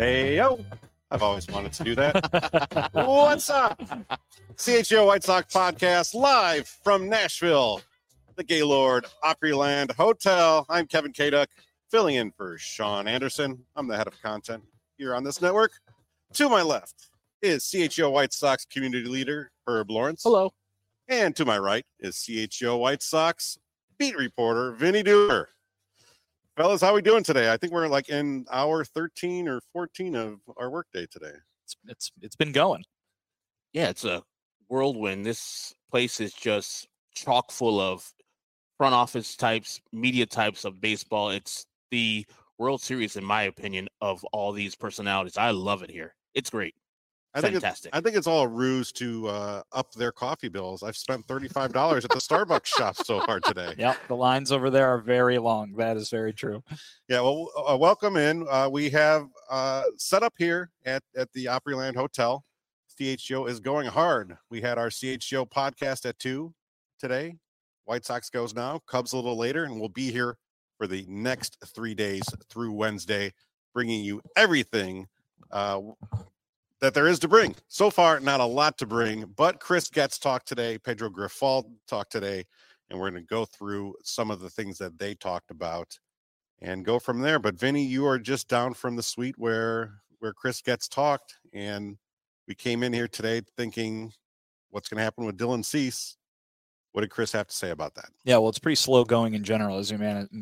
Hey, yo. I've always wanted to do that. What's up? CHGO White Sox podcast live from Nashville, the Gaylord Opryland Hotel. I'm Kevin Kaduk, filling in for Sean Anderson. I'm the head of content here on this network. To my left is CHGO White Sox community leader Herb Lawrence. Hello. And to my right is CHGO White Sox beat reporter Vinny Doomer. Fellas, how we doing today? I think we're like in hour 13 or 14 of our workday today. It's been going. Yeah, it's a whirlwind. This place is just chock full of front office types, media types of baseball. It's the World Series, in my opinion, of all these personalities. I love it here. It's great. Fantastic. I think it's all a ruse to up their coffee bills. I've spent $35 at the Starbucks shop so far today. Yeah, the lines over there are very long. That is very true. Yeah, well, welcome in. We have set up here at the Opryland Hotel. CHGO is going hard. We had our CHGO podcast at 2 today. White Sox goes now. Cubs a little later, and we'll be here for the next 3 days through Wednesday, bringing you everything that there is to bring. So far, not a lot to bring, but Chris Getz talked today, Pedro Grifol talked today, and we're going to go through some of the things that they talked about and go from there. But Vinny, you are just down from the suite where Chris Getz talked, and we came in here today thinking, what's going to happen with Dylan Cease? What did Chris have to say about that? Yeah, well, it's pretty slow going in general, as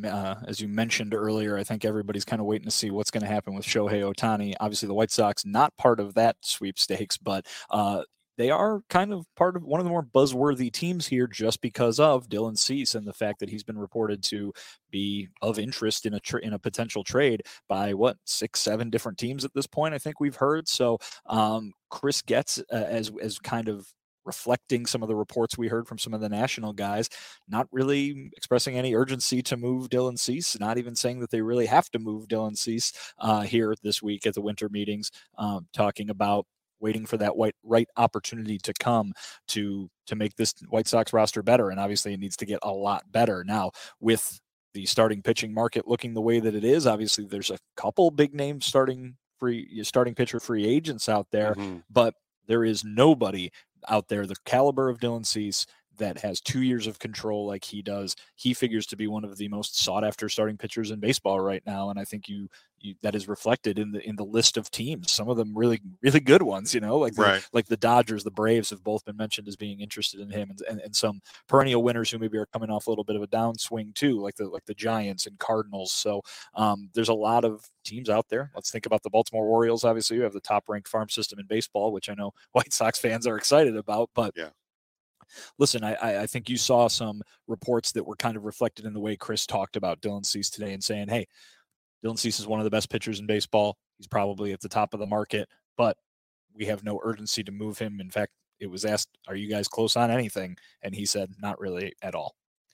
you mentioned earlier. I think everybody's kind of waiting to see what's going to happen with Shohei Ohtani. Obviously, the White Sox not part of that sweepstakes, but they are kind of part of one of the more buzzworthy teams here just because of Dylan Cease and the fact that he's been reported to be of interest in a potential trade by 6-7 different teams at this point. I think we've heard. So Chris Getz as kind of reflecting some of the reports we heard from some of the national guys, not really expressing any urgency to move Dylan Cease, not even saying that they really have to move Dylan Cease here this week at the winter meetings, talking about waiting for that right opportunity to come to make this White Sox roster better. And obviously it needs to get a lot better. Now, with the starting pitching market looking the way that it is, obviously there's a couple big names starting pitcher free agents out there, but there is nobody out there the caliber of Dylan Cease that has 2 years of control like he does. He figures to be one of the most sought after starting pitchers in baseball right now, and I think you that is reflected in the list of teams. Some of them really, really good ones, like the Dodgers, the Braves have both been mentioned as being interested in him, and some perennial winners who maybe are coming off a little bit of a downswing too, like the Giants and Cardinals. So there's a lot of teams out there. Let's think about the Baltimore Orioles. Obviously, you have the top ranked farm system in baseball, which I know White Sox fans are excited about, but yeah. Listen, I think you saw some reports that were kind of reflected in the way Chris talked about Dylan Cease today and saying, hey, Dylan Cease is one of the best pitchers in baseball. He's probably at the top of the market, but we have no urgency to move him. In fact, it was asked, are you guys close on anything? And he said, not really at all.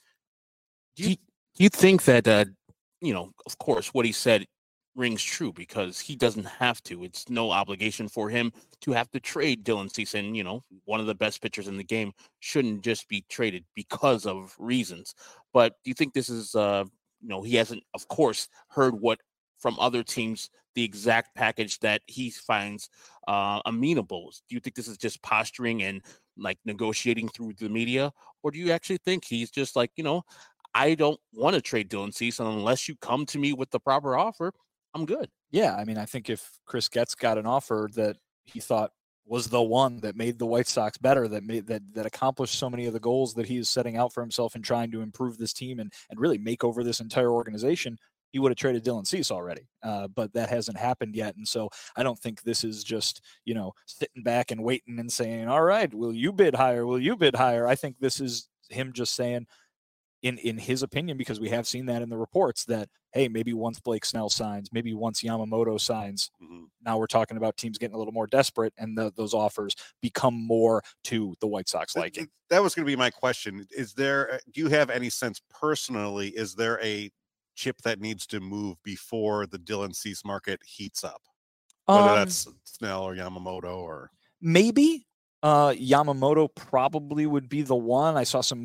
Do you think that, of course, what he said rings true because he doesn't have to. It's no obligation for him to have to trade Dylan Cease. And, one of the best pitchers in the game shouldn't just be traded because of reasons. But do you think this is, he hasn't, of course, heard what from other teams, the exact package that he finds amenable? Do you think this is just posturing and like negotiating through the media? Or do you actually think he's just like, I don't want to trade Dylan Cease unless you come to me with the proper offer? I'm good. Yeah, I mean, I think if Chris Getz got an offer that he thought was the one that made the White Sox better, that accomplished so many of the goals that he is setting out for himself and trying to improve this team and really make over this entire organization, he would have traded Dylan Cease already. But that hasn't happened yet. And so I don't think this is just, sitting back and waiting and saying, all right, will you bid higher? Will you bid higher? I think this is him just saying, in his opinion, because we have seen that in the reports that, hey, maybe once Blake Snell signs, maybe once Yamamoto signs, now we're talking about teams getting a little more desperate and those offers become more to the White Sox liking. That was going to be my question. Do you have any sense personally, is there a chip that needs to move before the Dylan Cease market heats up? Whether that's Snell or Yamamoto or... Maybe Yamamoto probably would be the one. I saw some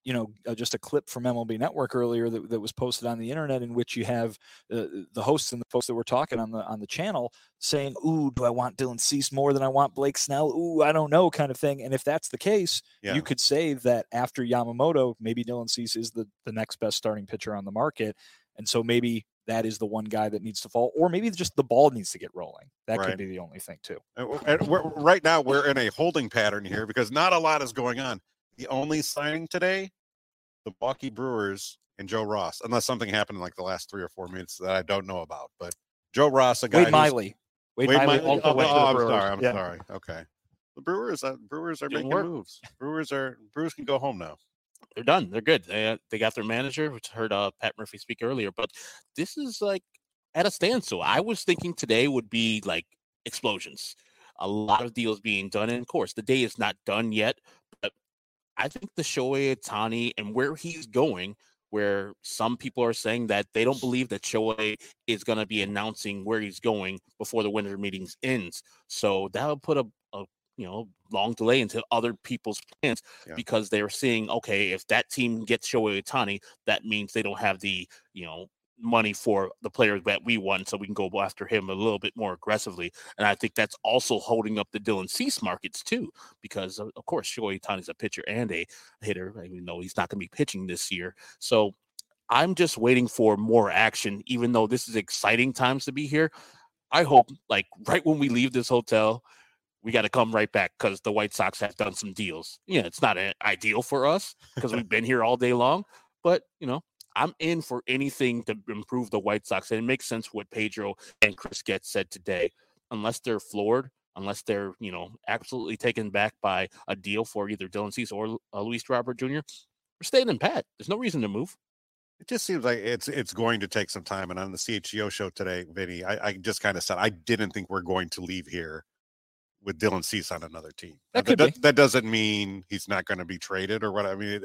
just a clip from MLB Network earlier that was posted on the internet, in which you have the hosts and the folks that were talking on the channel saying, "Ooh, do I want Dylan Cease more than I want Blake Snell? Ooh, I don't know," kind of thing. And if that's the case, you could say that after Yamamoto, maybe Dylan Cease is the next best starting pitcher on the market, and so maybe that is the one guy that needs to fall, or maybe just the ball needs to get rolling. That could be the only thing too. And right now we're in a holding pattern here because not a lot is going on. The only signing today, the Milwaukee Brewers and Joe Ross, unless something happened in like the last 3 or 4 minutes that I don't know about. But Joe Ross, a guy Wade Miley. Wade Miley also went to the Brewers. I'm sorry. Okay. The Brewers are making moves. Brewers can go home now. They're done. They're good. They got their manager, which heard Pat Murphy speak earlier. But this is like at a standstill. I was thinking today would be like explosions. A lot of deals being done. And of course, the day is not done yet. But I think the Shohei Ohtani and where he's going, where some people are saying that they don't believe that Shohei is going to be announcing where he's going before the winter meetings ends. So that'll put a long delay into other people's plans because they're seeing, okay, if that team gets Shohei Ohtani, that means they don't have the, money for the players that we want, so we can go after him a little bit more aggressively. And I think that's also holding up the Dylan Cease markets too, because of course Shohei Ohtani is a pitcher and a hitter, even though he's not going to be pitching this year. So I'm just waiting for more action, even though this is exciting times to be here. I hope like right when we leave this hotel, we got to come right back because the White Sox have done some deals. Yeah, it's not ideal for us because we've been here all day long, but I'm in for anything to improve the White Sox. And it makes sense what Pedro and Chris Getz said today. Unless they're floored, unless they're, absolutely taken back by a deal for either Dylan Cease or Luis Robert Jr., we're staying in pat. There's no reason to move. It just seems like it's going to take some time. And on the CHGO show today, Vinny, I just kind of said I didn't think we're going to leave here with Dylan Cease on another team. That doesn't mean he's not going to be traded or what. I mean,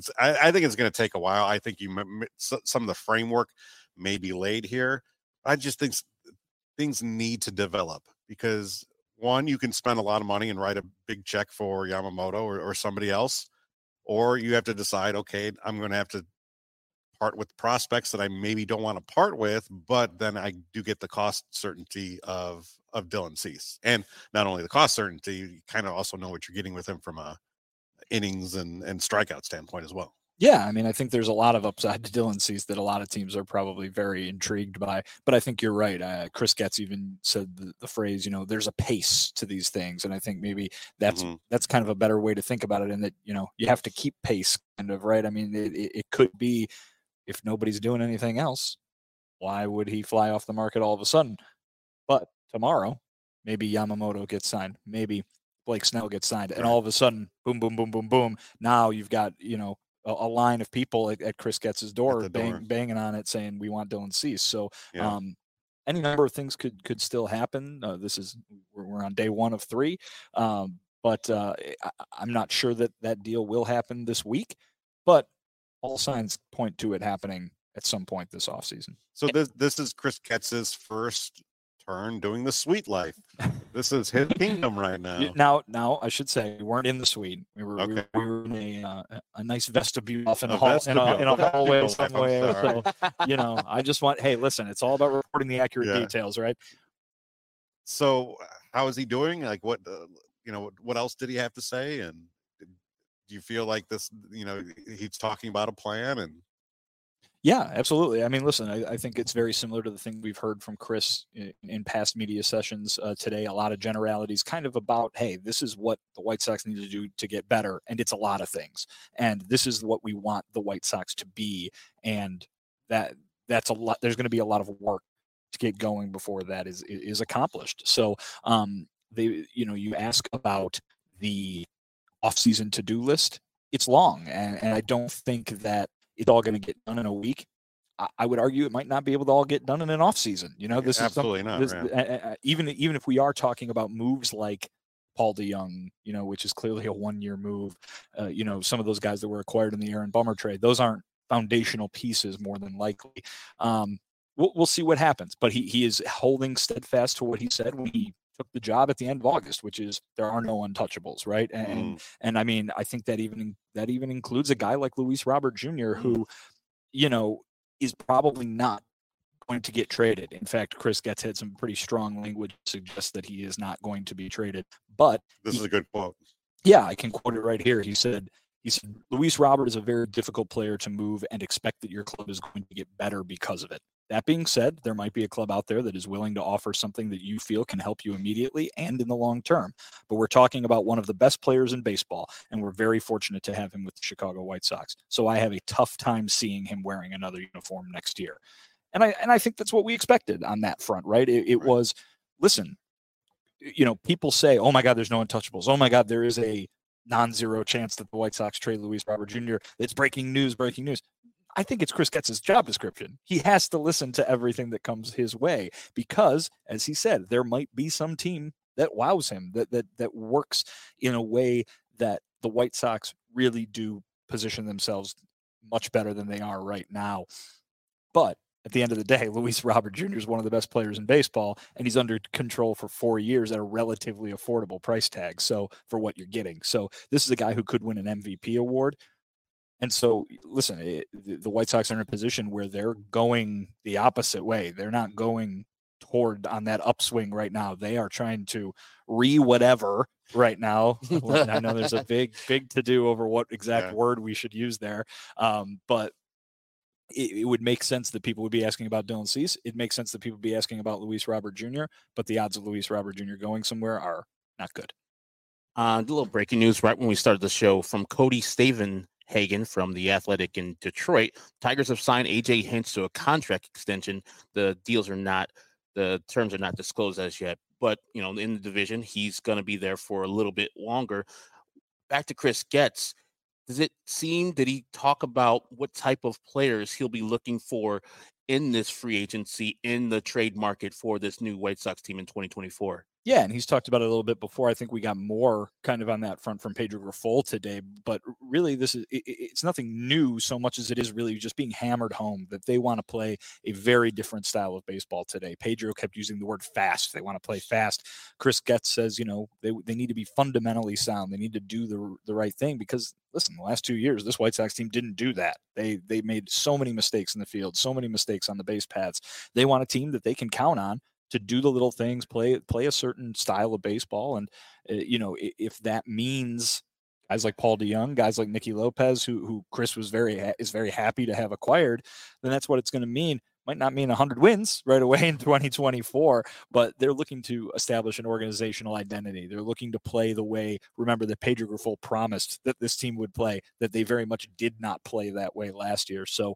I think it's going to take a while. I think some of the framework may be laid here. I just think things need to develop because one, you can spend a lot of money and write a big check for Yamamoto or somebody else, or you have to decide, okay, I'm going to have to part with prospects that I maybe don't want to part with, but then I do get the cost certainty of Dylan Cease. And not only the cost certainty, you kind of also know what you're getting with him from a innings and strikeout standpoint as well. Yeah, I mean, I think there's a lot of upside to Dylan Cease that a lot of teams are probably very intrigued by. But I think you're right. Chris Getz even said the phrase, there's a pace to these things. And I think maybe that's kind of a better way to think about it, in that, you have to keep pace kind of, right? I mean, it could be, if nobody's doing anything else, why would he fly off the market all of a sudden? But tomorrow, maybe Yamamoto gets signed. Maybe Blake Snell gets signed. And all of a sudden, boom, boom, boom, boom, boom. Now you've got, a line of people at Chris Getz's door, banging on it saying, we want Dylan Cease. So any number of things could still happen. We're on day 1 of 3. But I'm not sure that deal will happen this week. But all signs point to it happening at some point this offseason. So this is Chris Getz's first turn doing the suite life. This is his kingdom right now. Now I should say we weren't in the suite. We were in a nice vestibule off in a hallway somewhere. So I just want, hey, listen, it's all about reporting the accurate details, right? So how is he doing? Like what else did he have to say? And do you feel like this, he's talking about a plan? And yeah, absolutely. I mean, listen, I think it's very similar to the thing we've heard from Chris in past media sessions today. A lot of generalities kind of about, hey, this is what the White Sox need to do to get better. And it's a lot of things. And this is what we want the White Sox to be. And that's a lot. There's going to be a lot of work to get going before that is accomplished. So you ask about the off-season to-do list. It's long, and I don't think that it's all going to get done in a week. I would argue it might not be able to all get done in an off-season. This absolutely is not. Even if we are talking about moves like Paul DeJong, which is clearly a 1-year move. Some of those guys that were acquired in the Aaron Bummer trade, those aren't foundational pieces more than likely. We'll see what happens, but he is holding steadfast to what he said when he took the job at the end of August, which is there are no untouchables, right? And I mean, I think that even includes a guy like Luis Robert Jr., who, you know, is probably not going to get traded. In fact, Chris Getz had some pretty strong language to suggest that he is not going to be traded. But this is a good quote. Yeah, I can quote it right here. He said, Luis Robert is a very difficult player to move and expect that your club is going to get better because of it. That being said, there might be a club out there that is willing to offer something that you feel can help you immediately and in the long term. But we're talking about one of the best players in baseball, and we're very fortunate to have him with the Chicago White Sox. So I have a tough time seeing him wearing another uniform next year. And I think that's what we expected on that front, right? It was, listen, you know, people say, oh my God, there's no untouchables. Oh my God, there is a non-zero chance that the White Sox trade Luis Robert Jr. It's breaking news. I think it's Chris Getz's job description. He has to listen to everything that comes his way because, as he said, there might be some team that wows him, that works in a way that the White Sox really do position themselves much better than they are right now. But at the end of the day, Luis Robert Jr. is one of the best players in baseball, and he's under control for 4 years at a relatively affordable price tag. So for what you're getting. So this is a guy who could win an MVP award. And so, listen, the White Sox are in a position where they're going the opposite way. They're not going toward on that upswing right now. They are trying to whatever right now. I know there's a big to do over what exact word we should use there. But it would make sense that people would be asking about Dylan Cease. It makes sense that people would be asking about Luis Robert Jr., but the odds of Luis Robert Jr. going somewhere are not good. A little breaking news right when we started the show from Cody Stavenhagen from The Athletic in Detroit. Tigers have signed A.J. Hinch to a contract extension. The terms are not disclosed as yet, but, you know, in the division, he's going to be there for a little bit longer. Back to Chris Getz. Did he talk about what type of players he'll be looking for in this free agency, in the trade market for this new White Sox team in 2024? Yeah, and he's talked about it a little bit before. I think we got more kind of on that front from Pedro Grifol today, but really it's nothing new so much as it is really just being hammered home that they want to play a very different style of baseball today. Pedro kept using the word fast. They want to play fast. Chris Getz says, you know, they need to be fundamentally sound. They need to do the right thing because, listen, the last 2 years, this White Sox team didn't do that. They made so many mistakes in the field, so many mistakes on the base paths. They want a team that they can count on to do the little things, play a certain style of baseball. And, you know, if that means guys like Paul DeJong, guys like Nicky Lopez, who Chris is very happy to have acquired, then that's what it's going to mean. Might not mean 100 wins right away in 2024, but they're looking to establish an organizational identity. They're looking to play the way, remember, that Pedro Grifol promised that this team would play, that they very much did not play that way last year. So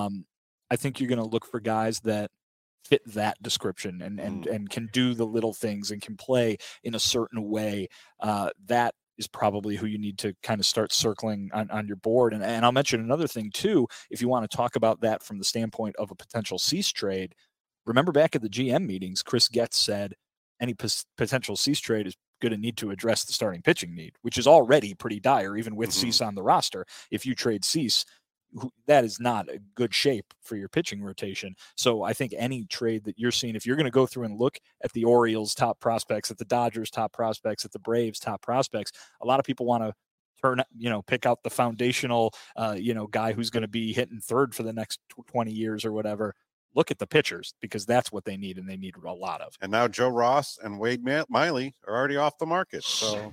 I think you're going to look for guys that fit that description and can do the little things and can play in a certain way. That is probably who you need to kind of start circling on your board. And I'll mention another thing too, if you want to talk about that from the standpoint of a potential Cease trade. Remember back at the GM meetings, Chris Getz said any potential Cease trade is going to need to address the starting pitching need, which is already pretty dire, even with Cease on the roster. If you trade Cease, that is not a good shape for your pitching rotation. So I think any trade that you're seeing, if you're going to go through and look at the Orioles top prospects, at the Dodgers top prospects, at the Braves top prospects, a lot of people want to pick out the foundational, guy who's going to be hitting third for the next 20 years or whatever. Look at the pitchers because that's what they need, and they need a lot of. And now Joe Ross and Wade Miley are already off the market. So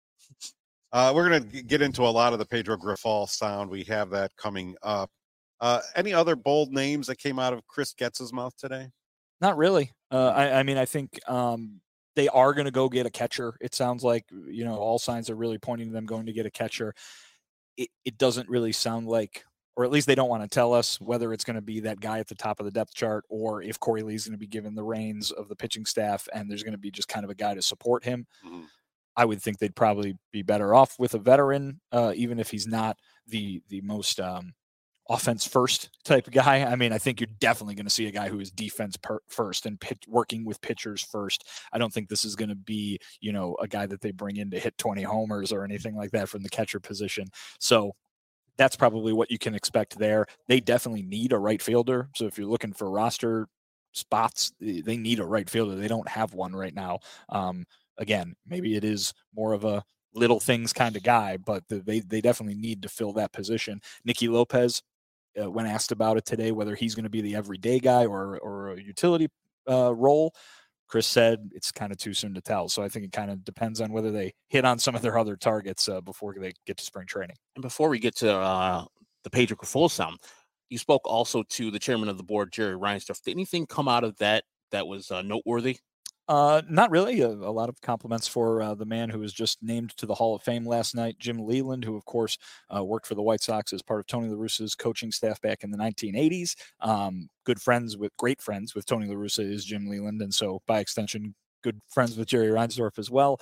we're going to get into a lot of the Pedro Grifol sound. We have that coming up. Any other bold names that came out of Chris Getz's mouth today? Not really. I mean, I think they are going to go get a catcher. It sounds like, all signs are really pointing to them going to get a catcher. It doesn't really sound like, or at least they don't want to tell us whether it's going to be that guy at the top of the depth chart or if Corey Lee's going to be given the reins of the pitching staff and there's going to be just kind of a guy to support him. Mm-hmm. I would think they'd probably be better off with a veteran, even if he's not the most offense first type of guy. I mean, I think you're definitely going to see a guy who is defense first and working with pitchers first. I don't think this is going to be, a guy that they bring in to hit 20 homers or anything like that from the catcher position. So that's probably what you can expect there. They definitely need a right fielder. So if you're looking for roster spots. They need a right fielder. They don't have one right now. Again, maybe it is more of a little things kind of guy, but they definitely need to fill that position. Nicky Lopez, when asked about it today, whether he's going to be the everyday guy or a utility role, Chris said it's kind of too soon to tell. So I think it kind of depends on whether they hit on some of their other targets before they get to spring training. And before we get to the Pedro Grifol sound, you spoke also to the chairman of the board, Jerry Reinsdorf. Did anything come out of that was noteworthy? Not really. A lot of compliments for the man who was just named to the Hall of Fame last night, Jim Leyland, who, of course, worked for the White Sox as part of Tony La Russa's coaching staff back in the 1980s. Great friends with Tony La Russa is Jim Leyland, and so by extension, good friends with Jerry Reinsdorf as well.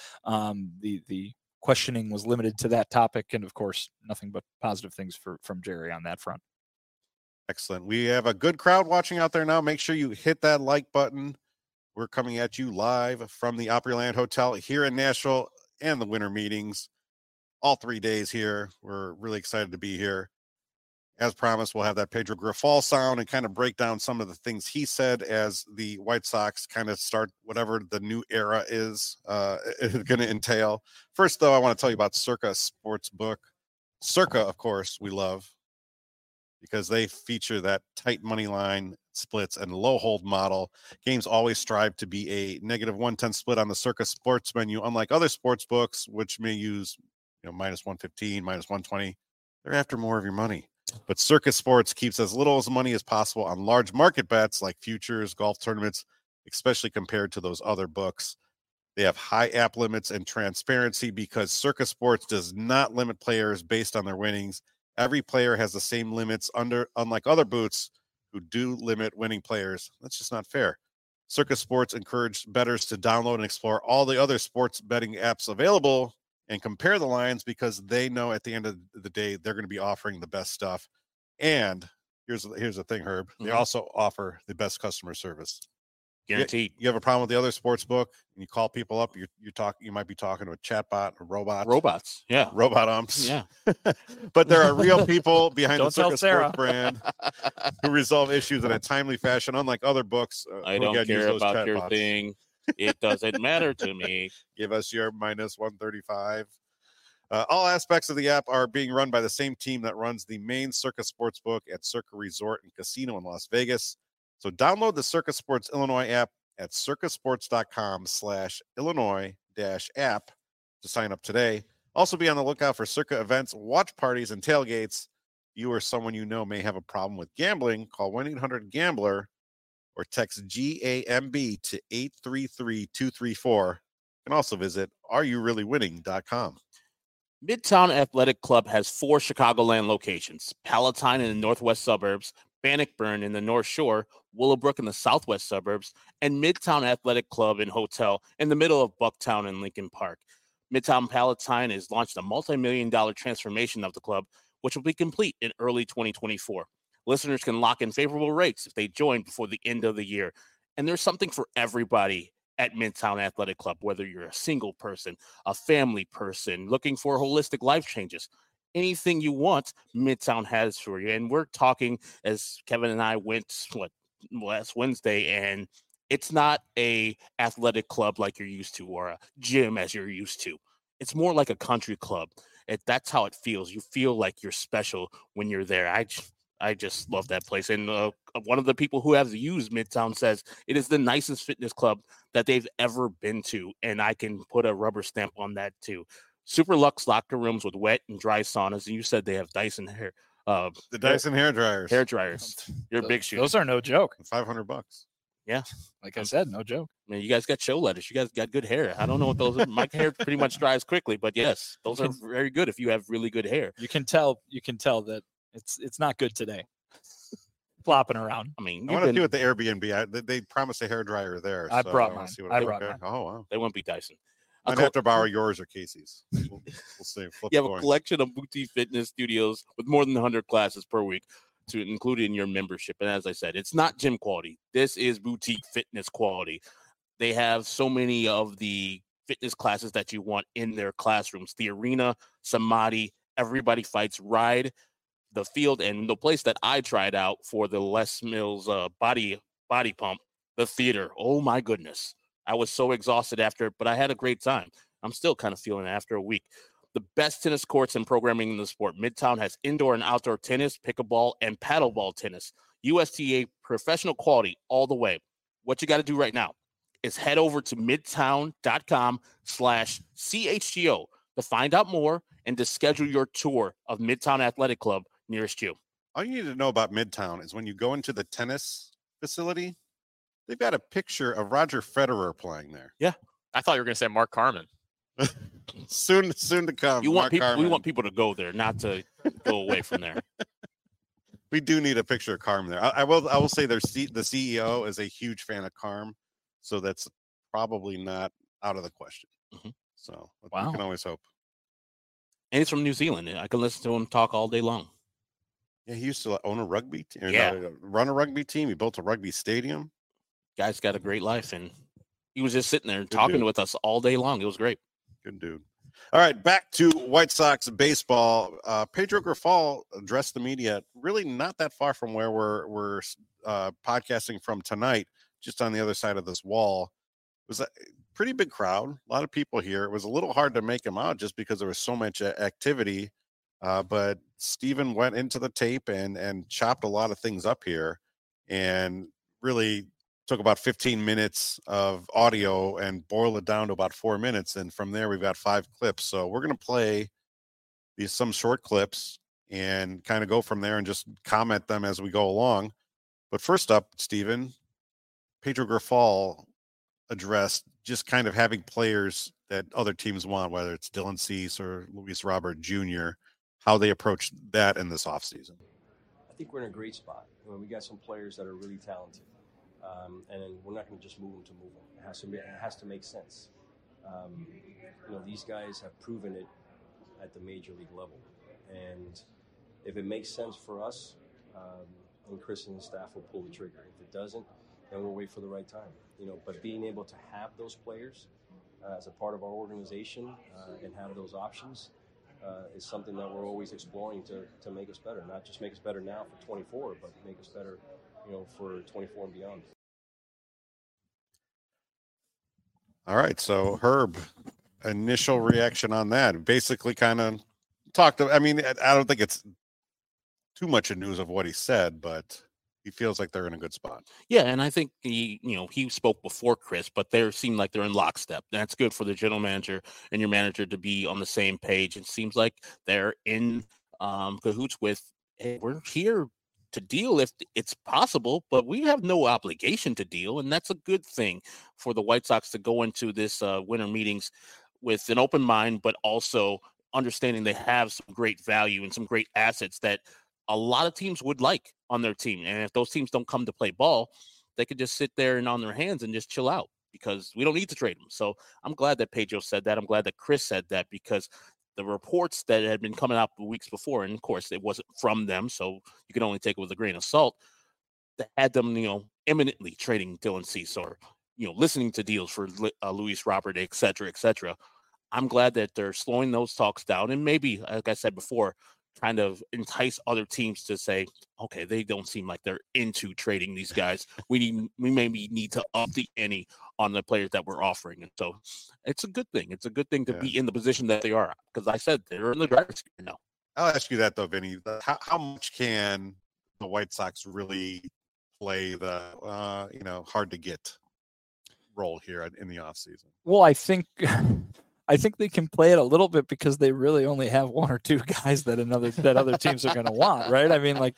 The questioning was limited to that topic, and of course, nothing but positive things from Jerry on that front. Excellent. We have a good crowd watching out there now. Make sure you hit that like button. We're coming at you live from the Opryland Hotel here in Nashville and the winter meetings all 3 days here. We're really excited to be here. As promised, we'll have that Pedro Grifol sound and kind of break down some of the things he said as the White Sox kind of start whatever the new era is going to entail. First, though, I want to tell you about Circa Sportsbook. Circa, of course, we love because they feature that tight money line splits and low hold model. Games always strive to be a -110 split on the Circa sports menu, unlike other sports books, which may use -115, -120. They're after more of your money. But Circa Sports keeps as little as money as possible on large market bets like futures, golf tournaments, especially compared to those other books. They have high app limits and transparency because Circa Sports does not limit players based on their winnings. Every player has the same limits unlike other boots who do limit winning players. That's just not fair. Circa Sports encouraged bettors to download and explore all the other sports betting apps available and compare the lines because they know at the end of the day, they're going to be offering the best stuff. And here's the thing, Herb. They also offer the best customer service. Guaranteed. You have a problem with the other sports book and you call people up, you might be talking to a chatbot or robots. Yeah. Robot umps. Yeah. But there are real people behind the Don't Circa tell Sports brand who resolve issues in a timely fashion, unlike other books. I don't care about your thing. It doesn't matter to me. Give us your -135. All aspects of the app are being run by the same team that runs the main Circa Sportsbook at Circa Resort and Casino in Las Vegas. So download the Circa Sports Illinois app at circasports.com/Illinois-app to sign up today. Also be on the lookout for Circa events, watch parties, and tailgates. You or someone you know may have a problem with gambling. Call 1-800-GAMBLER or text GAMB to 833-234. You can also visit areyoureallywinning.com. Midtown Athletic Club has 4 Chicagoland locations: Palatine in the northwest suburbs, Bannockburn in the North Shore, Willowbrook in the southwest suburbs, and Midtown Athletic Club and Hotel in the middle of Bucktown and Lincoln Park. Midtown Palatine has launched a multi-million-dollar transformation of the club, which will be complete in early 2024. Listeners can lock in favorable rates if they join before the end of the year. And there's something for everybody at Midtown Athletic Club, whether you're a single person, a family person, looking for holistic life changes. Anything you want, Midtown has for you. And we're talking, as Kevin and I went last Wednesday, and it's not a athletic club like you're used to or a gym as you're used to. It's more like a country club. That's how it feels. You feel like you're special when you're there. I just love that place. And one of the people who has used Midtown says it is the nicest fitness club that they've ever been to. And I can put a rubber stamp on that too. Super luxe locker rooms with wet and dry saunas. And you said they have Dyson hair. The Dyson hair dryers. Hair dryers. You're a big shoe. Those are no joke. $500. Yeah. Like I said, no joke. I mean, you guys got show letters. You guys got good hair. I don't know what those are. My hair pretty much dries quickly, but yes, those are very good if you have really good hair. You can tell that it's not good today. Flopping around. I mean, I want to see what the Airbnb. They promised a hair dryer there. I brought mine. Oh wow. They won't be Dyson. I'd have to borrow yours or Casey's. We'll see. You have a collection of boutique fitness studios with more than 100 classes per week to include in your membership. And as I said, it's not gym quality. This is boutique fitness quality. They have so many of the fitness classes that you want in their classrooms. The Arena, Samadhi, Everybody Fights, Ride, the Field, and the place that I tried out for the Les Mills body pump The theater. Oh my goodness. I was so exhausted after, but I had a great time. I'm still kind of feeling it after a week. The best tennis courts and programming in the sport. Midtown has indoor and outdoor tennis, pickleball, and paddleball tennis. USTA professional quality all the way. What you got to do right now is head over to midtown.com/CHGO to find out more and to schedule your tour of Midtown Athletic Club nearest you. All you need to know about Midtown is when you go into the tennis facility, they've got a picture of Roger Federer playing there. Yeah. I thought you were going to say Mark Carmen. soon to come. We want people to go there, not to go away from there. We do need a picture of Carm there. I will say the CEO is a huge fan of Carm, so that's probably not out of the question. Mm-hmm. So wow. We can always hope. And he's from New Zealand. I can listen to him talk all day long. Yeah, he used to own a rugby team. Yeah. Run a rugby team. He built a rugby stadium. Guy's got a great life, and he was just sitting there talking with us all day long. It was great. Good dude. All right, back to White Sox baseball. Pedro Grifol addressed the media really not that far from where we're podcasting from tonight, just on the other side of this wall. It was a pretty big crowd, a lot of people here. It was a little hard to make him out just because there was so much activity. But Steven went into the tape and chopped a lot of things up here and really took about 15 minutes of audio and boiled it down to about 4 minutes. And from there, we've got 5 clips. So we're going to play some short clips and kind of go from there and just comment them as we go along. But first up, Steven, Pedro Grifol addressed just kind of having players that other teams want, whether it's Dylan Cease or Luis Robert Jr., how they approach that in this offseason. I think we're in a great spot. We got some players that are really talented. And we're not going to just move them to move them. It has to make sense. These guys have proven it at the major league level. And if it makes sense for us, then Chris and his staff will pull the trigger. If it doesn't, then we'll wait for the right time. But being able to have those players as a part of our organization and have those options is something that we're always exploring to make us better. Not just make us better now for 24, but make us better, for 24 and beyond. All right, so Herb, initial reaction on that. Basically kind of talked I don't think it's too much of news of what he said, but he feels like they're in a good spot. Yeah, and I think he spoke before Chris, but they seem like they're in lockstep. That's good for the general manager and your manager to be on the same page. It seems like they're in cahoots with, hey, we're here to deal if it's possible, but we have no obligation to deal, and that's a good thing for the White Sox to go into this winter meetings with an open mind, but also understanding they have some great value and some great assets that a lot of teams would like on their team. And if those teams don't come to play ball, they could just sit there and on their hands and just chill out because we don't need to trade them. So I'm glad that Pedro said that. I'm glad that Chris said that because the reports that had been coming out the weeks before, and of course it wasn't from them, so you can only take it with a grain of salt, that had them, imminently trading Dylan Cease or, listening to deals for Luis Robert, et cetera, et cetera. I'm glad that they're slowing those talks down and maybe, like I said before, kind of entice other teams to say, okay, they don't seem like they're into trading these guys. We maybe need to up the ante on the players that we're offering. And so it's a good thing. It's a good thing to be in the position that they are. Because I said they're in the driver's seat now. I'll ask you that though, Vinny. How much can the White Sox really play the hard to get role here in the offseason? Well, I think they can play it a little bit because they really only have 1 or 2 guys that other teams are going to want, right?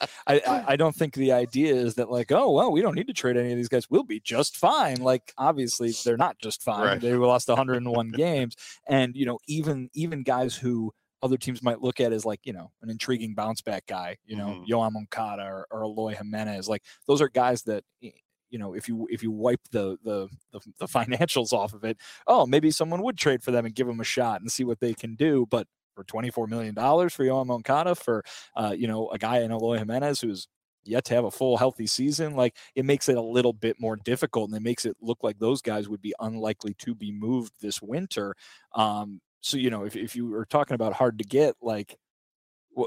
I don't think the idea is that oh, well, we don't need to trade any of these guys. We'll be just fine. Obviously they're not just fine. Right. They lost 101 games. And, even guys who other teams might look at as an intriguing bounce back guy, Yoan Moncada or Eloy Jimenez, those are guys that, if you wipe the financials off of it, maybe someone would trade for them and give them a shot and see what they can do. But for $24 million for Yoan Moncada, for a guy in Eloy Jimenez who's yet to have a full healthy season, it makes it a little bit more difficult, and it makes it look like those guys would be unlikely to be moved this winter. So if you were talking about hard to get,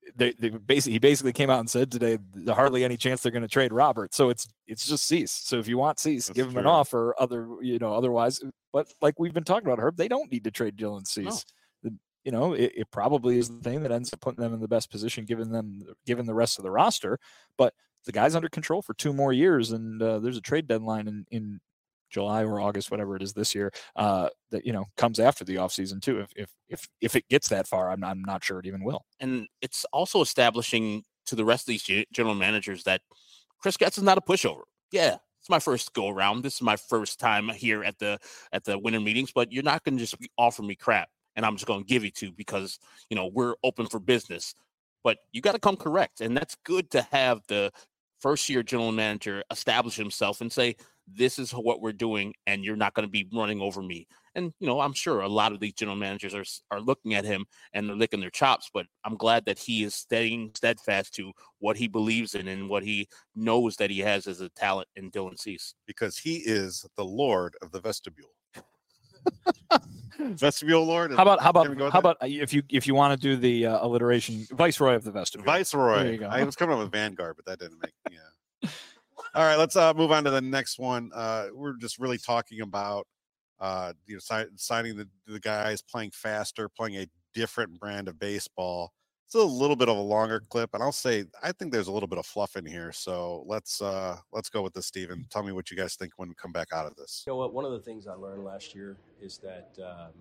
he basically came out and said today there's hardly any chance they're going to trade Robert. So it's just Cease. So if you want Cease, give him an offer. Otherwise, but like we've been talking about, Herb, they don't need to trade Dylan Cease. No. It probably is the thing that ends up putting them in the best position, given the rest of the roster. But the guy's under control for 2 more years, and there's a trade deadline in July or August, whatever it is this year, that comes after the offseason too. If it gets that far, I'm not sure it even will. And it's also establishing to the rest of these general managers that Chris Getz is not a pushover. Yeah, it's my first go around. This is my first time here at the winter meetings, but you're not going to just offer me crap and I'm just going to give you to because we're open for business. But you got to come correct, and that's good to have the first-year general manager establish himself and say, this is what we're doing, and you're not going to be running over me. And, I'm sure a lot of these general managers are looking at him and they're licking their chops, but I'm glad that he is staying steadfast to what he believes in and what he knows that he has as a talent in Dylan Cease. Because he is the Lord of the vestibule. Vestibule Lord. How about if you want to do the alliteration, Viceroy of the vestibule. Viceroy. There you go. I was coming up with Vanguard, but that didn't make. Yeah. All right, let's move on to the next one. We're just really talking about signing the guys, playing faster, playing a different brand of baseball. It's a little bit of a longer clip, and I'll say I think there's a little bit of fluff in here. So let's go with this, Steven. Tell me what you guys think when we come back out of this. You know what? One of the things I learned last year is that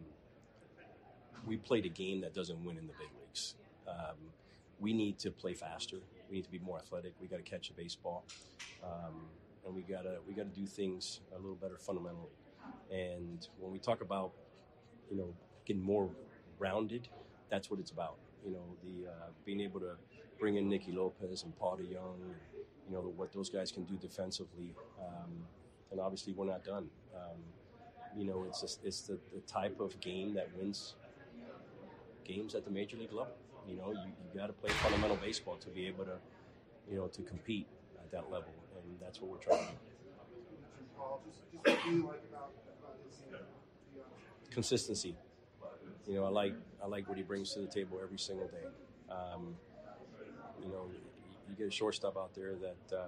we played a game that doesn't win in the big leagues. We need to play faster. We need to be more athletic. We got to catch a baseball, and we got to do things a little better fundamentally. And when we talk about getting more rounded, that's what it's about. Being able to bring in Nicky Lopez and Paul DeJong, what those guys can do defensively, and obviously we're not done. It's the type of game that wins games at the major league level. You got to play fundamental baseball to be able to to compete at that level, and that's what we're trying to do. Consistency. I like what he brings to the table every single day. You get a shortstop out there that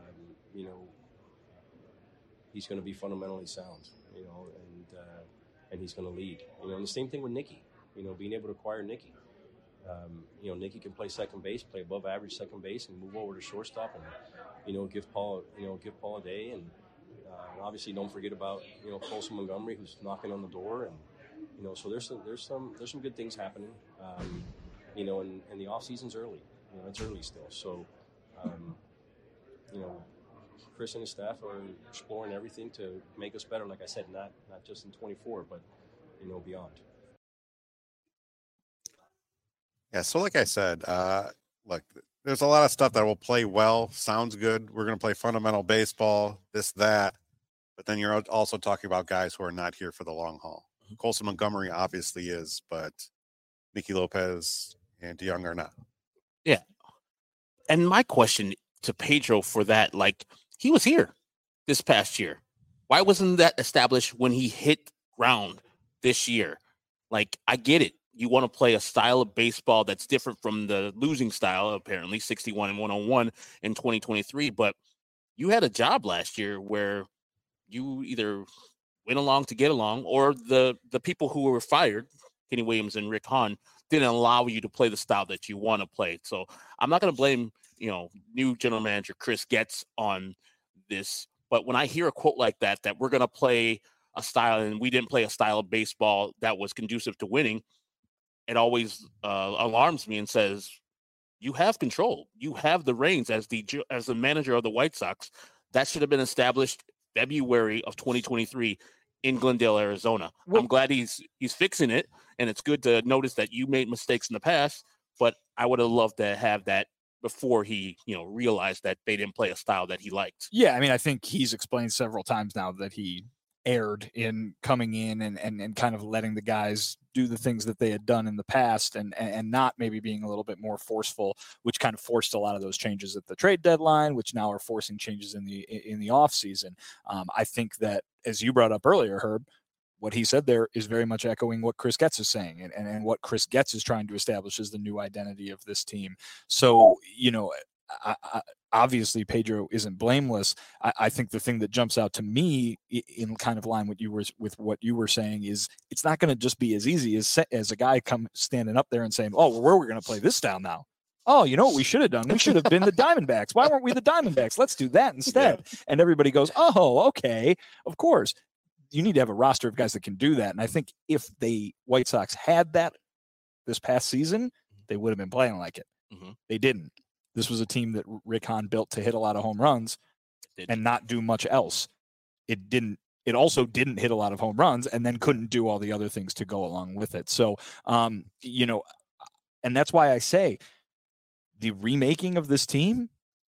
he's going to be fundamentally sound, and he's going to lead. And the same thing with Nicky. Being able to acquire Nicky. Nicky can play second base, play above average second base, and move over to shortstop, and give Paul a day, and obviously don't forget about Colson Montgomery, who's knocking on the door, and so there's some good things happening, and the off season's early. It's early still, so Chris and his staff are exploring everything to make us better. Like I said, not just in 24, but beyond. Yeah, so like I said, look, there's a lot of stuff that will play well, sounds good. We're going to play fundamental baseball, this, that. But then you're also talking about guys who are not here for the long haul. Colson Montgomery obviously is, but Nicky Lopez and DeJong are not. Yeah. And my question to Pedro for that, he was here this past year. Why wasn't that established when he hit ground this year? I get it. You want to play a style of baseball that's different from the losing style, apparently 61 and 101 in 2023. But you had a job last year where you either went along to get along, or the people who were fired, Kenny Williams and Rick Hahn, didn't allow you to play the style that you want to play. So I'm not going to blame, new general manager Chris Getz on this. But when I hear a quote like that we're going to play a style and we didn't play a style of baseball that was conducive to winning, it always alarms me and says, you have control. You have the reins as the manager of the White Sox. That should have been established February of 2023 in Glendale, Arizona. I'm glad he's fixing it, and it's good to notice that you made mistakes in the past, but I would have loved to have that before he, realized that they didn't play a style that he liked. Yeah, I think he's explained several times now that he erred in coming in and kind of letting the guys do the things that they had done in the past and not maybe being a little bit more forceful, which kind of forced a lot of those changes at the trade deadline, which now are forcing changes in the off season. I think that, as you brought up earlier, Herb, what he said there is very much echoing what Chris Getz is saying, and what Chris Getz is trying to establish as the new identity of this team. So, obviously Pedro isn't blameless. I think the thing that jumps out to me in kind of line with what you were saying is it's not going to just be as easy as a guy standing up there and saying, oh, well, where are we going to play this down now? Oh, you know what we should have done? We should have been the Diamondbacks. Why weren't we the Diamondbacks? Let's do that instead. Yeah. And everybody goes, oh, okay, of course. You need to have a roster of guys that can do that. And I think if the White Sox had that this past season, they would have been playing like it. Mm-hmm. They didn't. This was a team that Rick Hahn built to hit a lot of home runs and not do much else. It also didn't hit a lot of home runs and then couldn't do all the other things to go along with it. So, and that's why I say the remaking of this team,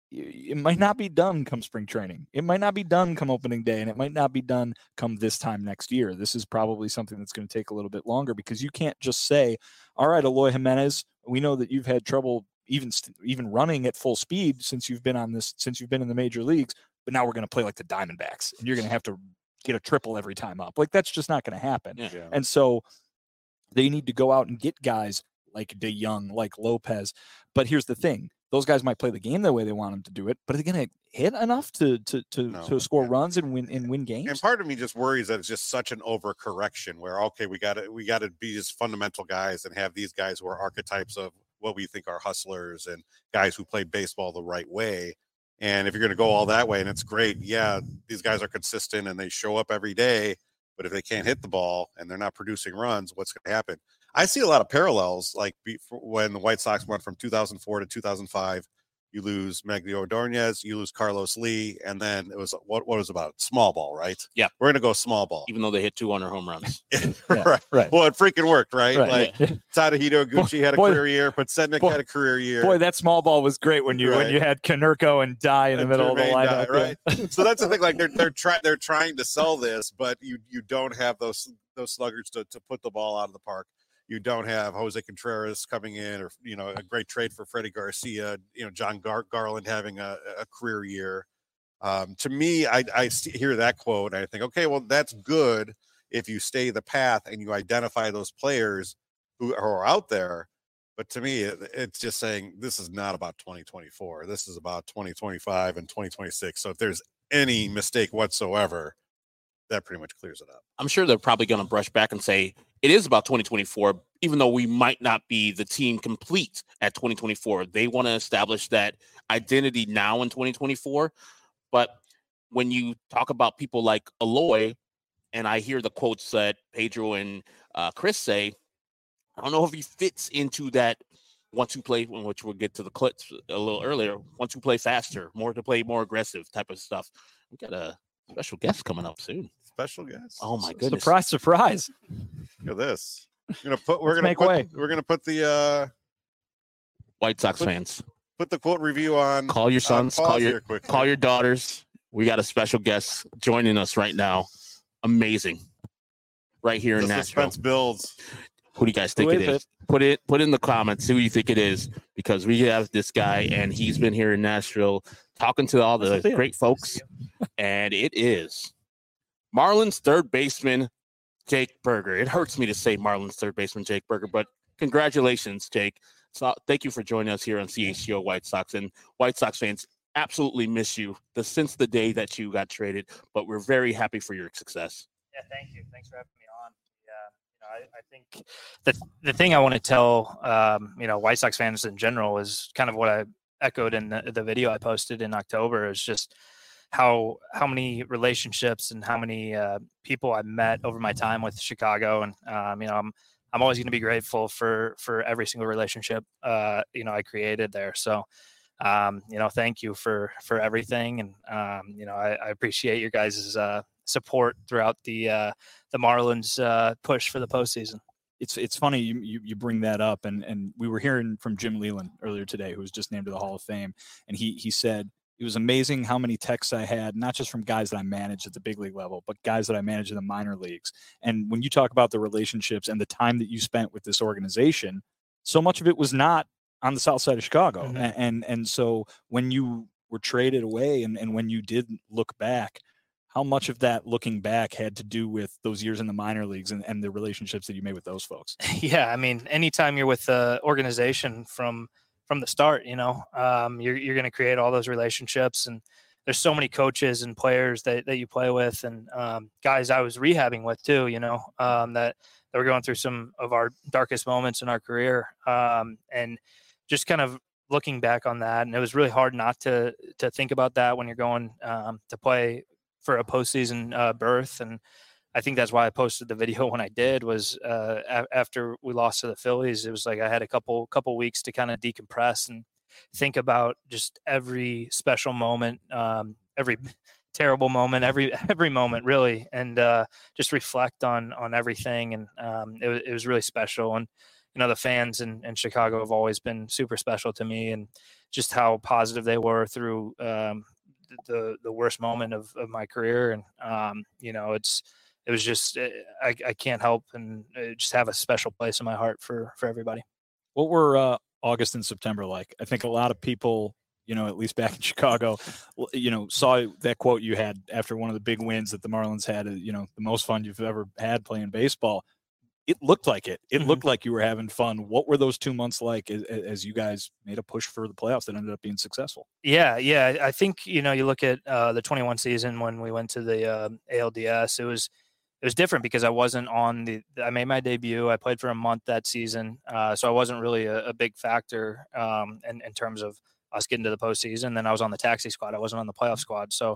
it might not be done come spring training. It might not be done come opening day, and it might not be done come this time next year. This is probably something that's going to take a little bit longer because you can't just say, all right, Eloy Jimenez, we know that you've had trouble even running at full speed since you've been in the major leagues, but now we're going to play like the Diamondbacks, and you're going to have to get a triple every time up. Like, that's just not going to happen. Yeah. And so they need to go out and get guys like DeYoung, like Lopez. But here's the thing. Those guys might play the game the way they want them to do it, but are they going to hit enough to score runs and win games? And part of me just worries that it's just such an overcorrection where, okay, we got to be just fundamental guys and have these guys who are archetypes of what we think are hustlers and guys who play baseball the right way. And if you're going to go all that way, and it's great, yeah, these guys are consistent and they show up every day, but if they can't hit the ball and they're not producing runs, what's going to happen? I see a lot of parallels, like when the White Sox went from 2004 to 2005. You lose Miguel Ordonez, you lose Carlos Lee, and then it was what was about small ball, right? Yeah, we're gonna go small ball, even though they hit 200 home runs. Right. Well, it freaking worked, right? Yeah. Like Tadahito Iguchi had a career year, but Sednick had a career year. Boy, that small ball was great when you had Konerko and Dye in the middle of the lineup, right? So that's the thing. Like they're trying to sell this, but you don't have those sluggers to put the ball out of the park. You don't have Jose Contreras coming in, or a great trade for Freddie Garcia. John Garland having a career year. To me, I hear that quote and I think, okay, well, that's good if you stay the path and you identify those players who are out there. But to me, it's just saying this is not about 2024. This is about 2025 and 2026. So if there's any mistake whatsoever, that pretty much clears it up. I'm sure they're probably going to brush back and say it is about 2024, even though we might not be the team complete at 2024. They want to establish that identity now in 2024. But when you talk about people like Eloy, and I hear the quotes that Pedro and Chris say, I don't know if he fits into that 1-2 play, which we'll get to the clips a little earlier, 1-2 play faster, more to play more aggressive type of stuff. We got a special guest coming up soon. Special guest. Oh my goodness! Surprise! Look at this. We're gonna put the White Sox fans. Put the quote review on. Call your sons. Call your daughters. We got a special guest joining us right now. Amazing. Right here in Nashville. Suspense builds. Who do you guys think it is? Put in the comments who you think it is, because we have this guy and he's been here in Nashville talking to all the great folks, and it is Marlins third baseman Jake Burger. It hurts me to say Marlins third baseman Jake Burger, but congratulations, Jake. So thank you for joining us here on CHGO White Sox, and White Sox fans absolutely miss you since the day that you got traded, but we're very happy for your success. Yeah, thank you. Thanks for having me on. I think the thing I want to tell, White Sox fans in general is kind of what I echoed in the video I posted in October, is just how many relationships and how many people I've met over my time with Chicago. And, I'm always going to be grateful for every single relationship, I created there. So, thank you for everything. And, I appreciate your guys' support throughout the Marlins push for the postseason. It's funny you bring that up, and we were hearing from Jim Leyland earlier today, who was just named to the Hall of Fame, and he said it was amazing how many texts I had, not just from guys that I managed at the big league level, but guys that I managed in the minor leagues. And when you talk about the relationships and the time that you spent with this organization, so much of it was not on the south side of Chicago. Mm-hmm. And so when you were traded away and when you did look back, how much of that, looking back, had to do with those years in the minor leagues and the relationships that you made with those folks? Yeah, I mean, anytime you're with the organization from the start, you're going to create all those relationships, and there's so many coaches and players that you play with, and guys I was rehabbing with too, that were going through some of our darkest moments in our career, and just kind of looking back on that, and it was really hard not to think about that when you're going to play for a postseason berth. And I think that's why I posted the video when I did, was after we lost to the Phillies. It was like I had a couple weeks to kind of decompress and think about just every special moment, every terrible moment, every moment really, and just reflect on everything. And it was really special. And the fans in Chicago have always been super special to me, and just how positive they were through the worst moment of my career. And it was just, I can't help and just have a special place in my heart for everybody. What were August and September like? I think a lot of people, at least back in Chicago, saw that quote you had after one of the big wins that the Marlins had, the most fun you've ever had playing baseball. It looked like it. It looked like you were having fun. What were those 2 months like as you guys made a push for the playoffs that ended up being successful? Yeah. I think, you look at the 21 season when we went to the ALDS, it was different because I wasn't I made my debut. I played for a month that season. So I wasn't really a big factor in terms of us getting to the postseason. Then I was on the taxi squad. I wasn't on the playoff squad. So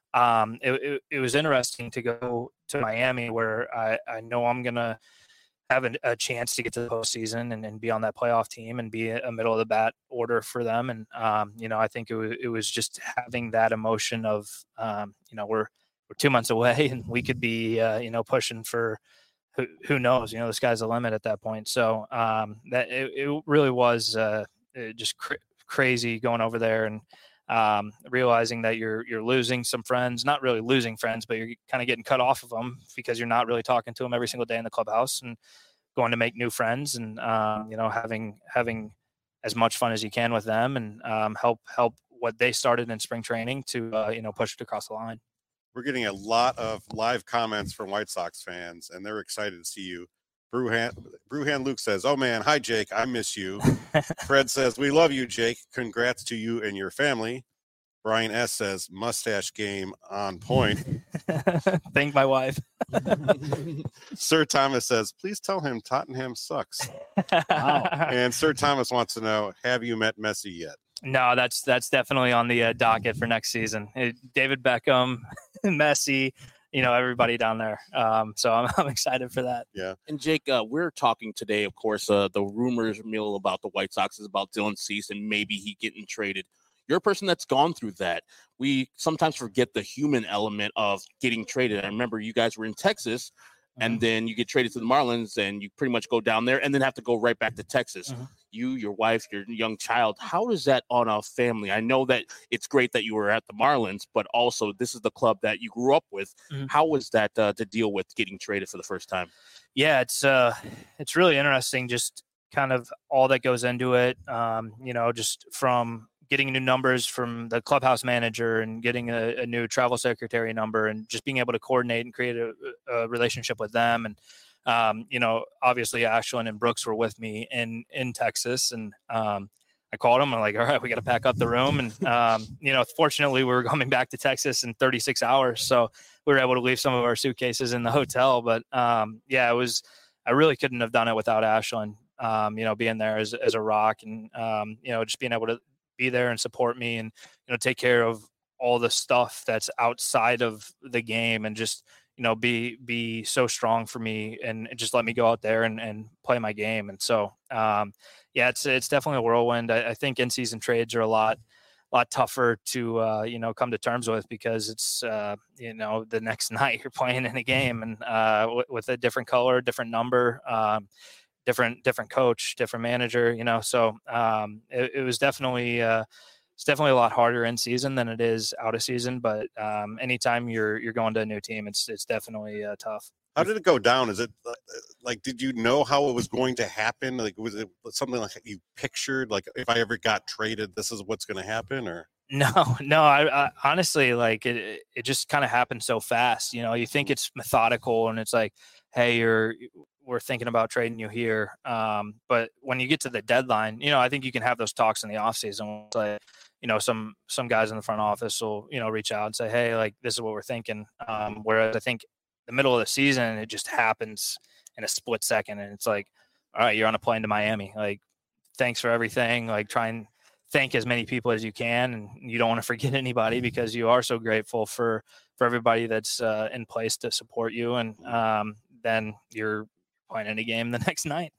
it was interesting to go to Miami, where I know I'm going to have a chance to get to the postseason and be on that playoff team and be a middle of the bat order for them. And, I think it was just having that emotion of, we're 2 months away and we could be, pushing for who knows, the sky's the limit at that point. So that it really was just crazy going over there and realizing that you're losing some friends, not really losing friends, but you're kind of getting cut off of them because you're not really talking to them every single day in the clubhouse, and going to make new friends and, having as much fun as you can with them, and help what they started in spring training to, push it across the line. We're getting a lot of live comments from White Sox fans, and they're excited to see you. Brewhan Luke says, "Oh man, hi Jake, I miss you." Fred says, "We love you, Jake. Congrats to you and your family." Brian S says, "Mustache game on point." Thank my wife. Sir Thomas says, "Please tell him Tottenham sucks." Wow. And Sir Thomas wants to know, have you met Messi yet? No, that's definitely on the docket for next season. David Beckham, Messi, everybody down there. So I'm excited for that. Yeah. And Jake, we're talking today, of course, the rumors mill about the White Sox is about Dylan Cease and maybe he getting traded. You're a person that's gone through that. We sometimes forget the human element of getting traded. I remember you guys were in Texas, and then you get traded to the Marlins, and you pretty much go down there and then have to go right back to Texas. You, your wife, your young child. How is that on a family? I know that it's great that you were at the Marlins, but also this is the club that you grew up with. How was that to deal with getting traded for the first time? Yeah, it's really interesting, just kind of all that goes into it. Just from getting new numbers from the clubhouse manager and getting a new travel secretary number, and just being able to coordinate and create a relationship with them. And, obviously Ashland and Brooks were with me in Texas, and I called them. I'm like, all right, we got to pack up the room. And, fortunately we were coming back to Texas in 36 hours. So we were able to leave some of our suitcases in the hotel. But I really couldn't have done it without Ashland, being there as a rock, and, just being able to be there and support me, and, take care of all the stuff that's outside of the game, and just, be so strong for me, and just let me go out there and play my game. And so, it's definitely a whirlwind. I think in-season trades are a lot tougher to, come to terms with, because it's, the next night you're playing in a game, and with a different color, different number, different coach, different manager, so it was definitely it's definitely a lot harder in season than it is out of season. But anytime you're going to a new team, it's definitely tough. How did it go down? Is it like, did you know how it was going to happen? Like, was it something like you pictured, like, if I ever got traded, this is what's going to happen? Or No, I honestly, like, it just kind of happened so fast. You know, you think it's methodical and it's like, hey, we're thinking about trading you here. But when you get to the deadline, you know, I think you can have those talks in the offseason. It's like, you know, some guys in the front office will, you know, reach out and say, hey, like, this is what we're thinking. Whereas I think the middle of the season, it just happens in a split second. And it's like, all right, you're on a plane to Miami. Like, thanks for everything. Like, try and thank as many people as you can, and you don't want to forget anybody because you are so grateful for everybody that's in place to support you. And then you're playing in a game the next night.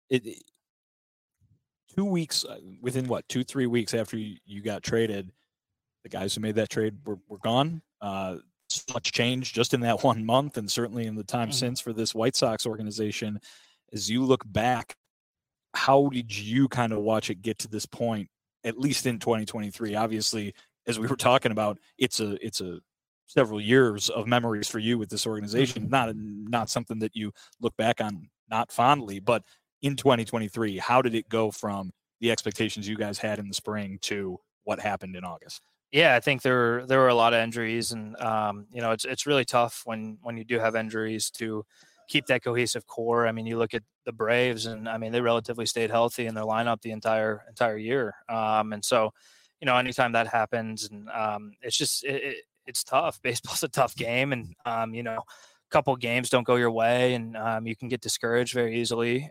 2 weeks within 2-3 weeks after you got traded, the guys who made that trade were gone. So much change just in that 1 month, and certainly in the time since for this White Sox organization. As you look back, how did you kind of watch it get to this point, at least in 2023? Obviously, as we were talking about, it's a several years of memories for you with this organization. Not something that you look back on not fondly, but in 2023, how did it go from the expectations you guys had in the spring to what happened in August? Yeah, I think there were a lot of injuries, and you know, it's really tough when you do have injuries to keep that cohesive core. I mean, you look at the Braves, and I mean, they relatively stayed healthy in their lineup the entire year. And so, you know, anytime that happens, and it's just it's tough. Baseball's a tough game, and you know, a couple games don't go your way, and you can get discouraged very easily.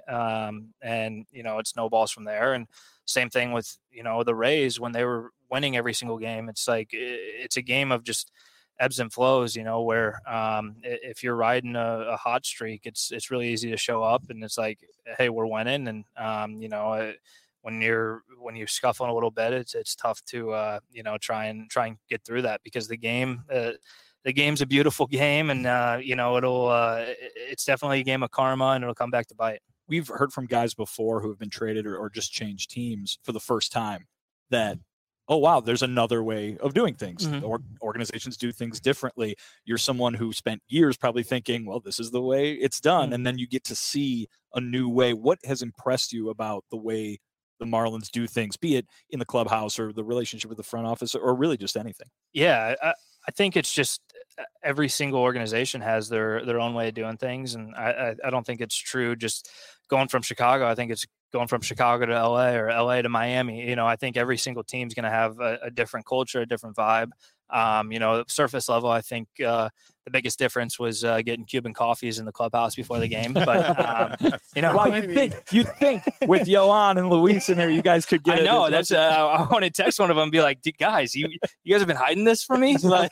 And you know, it snowballs from there. And same thing with, you know, the Rays when they were winning every single game. It's like it's a game of just ebbs and flows, you know, where if you're riding a hot streak, it's really easy to show up and it's like, hey, we're winning. And you know, when you're scuffling a little bit, it's tough to you know, try and get through that, because the game's a beautiful game, and you know, it's definitely a game of karma, and it'll come back to bite. We've heard from guys before who have been traded or just changed teams for the first time that, oh, wow, there's another way of doing things. Or organizations do things differently. You're someone who spent years probably thinking, well, this is the way it's done. And then you get to see a new way. What has impressed you about the way the Marlins do things, be it in the clubhouse or the relationship with the front office or really just anything? Yeah, I think it's just every single organization has their own way of doing things. And I don't think it's true just going from Chicago. I think it's going from Chicago to LA or LA to Miami. You know, I think every single team's going to have a different culture, a different vibe. You know, surface level, I think the biggest difference was getting Cuban coffees in the clubhouse before the game. But you know, well, you think with Yohan and Luis in there, you guys could get. I know that's. I want to text one of them and be like, guys, you guys have been hiding this from me. Like,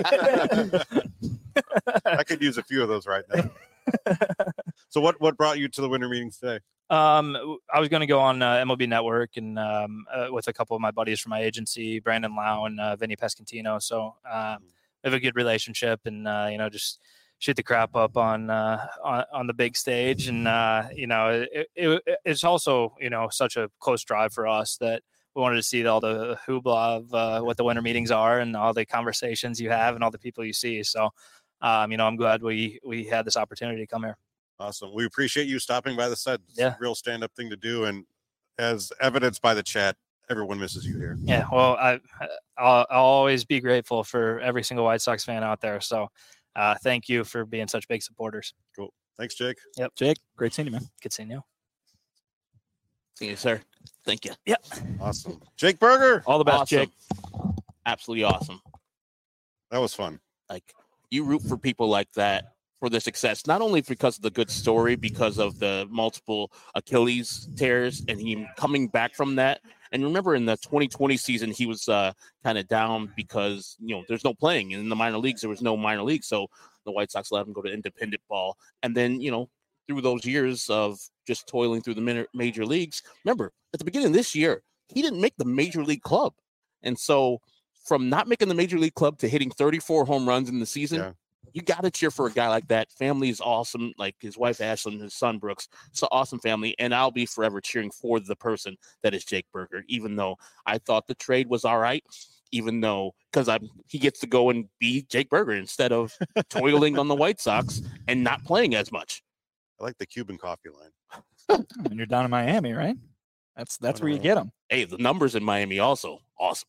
I could use a few of those right now. So what brought you to the winter meetings today? I was going to go on MLB Network and with a couple of my buddies from my agency, Brandon Lau and Vinny Pescantino. So we have a good relationship, and you know, just shoot the crap up on the big stage. And you know, it's also, you know, such a close drive for us that we wanted to see all the hoopla of what the winter meetings are and all the conversations you have and all the people you see. So you know, I'm glad we had this opportunity to come here. Awesome. We appreciate you stopping by the set. It's a real stand-up thing to do, and as evidenced by the chat, everyone misses you here. Yeah, well, I'll always be grateful for every single White Sox fan out there. So thank you for being such big supporters. Cool. Thanks, Jake. Yep. Jake, great seeing you, man. Good seeing you. See you, sir. Thank you. Yep. Awesome. Jake Burger. All the best, Awesome. Jake. Absolutely awesome. That was fun. Like, you root for people like that for the success, not only because of the good story, because of the multiple Achilles tears and him coming back from that. And remember, in the 2020 season, he was kind of down because, you know, there's no playing in the minor leagues. There was no minor league. So the White Sox let him go to independent ball. And then, you know, through those years of just toiling through the major leagues, remember, at the beginning of this year, he didn't make the major league club. And so from not making the major league club to hitting 34 home runs in the season, you got to cheer for a guy like that. Family is awesome. Like his wife, Ashlyn, his son, Brooks. It's an awesome family. And I'll be forever cheering for the person that is Jake Burger, even though I thought the trade was all right, even though because he gets to go and be Jake Burger instead of toiling on the White Sox and not playing as much. I like the Cuban coffee line. And you're down in Miami, right? That's where you get them. Hey, the numbers in Miami also awesome.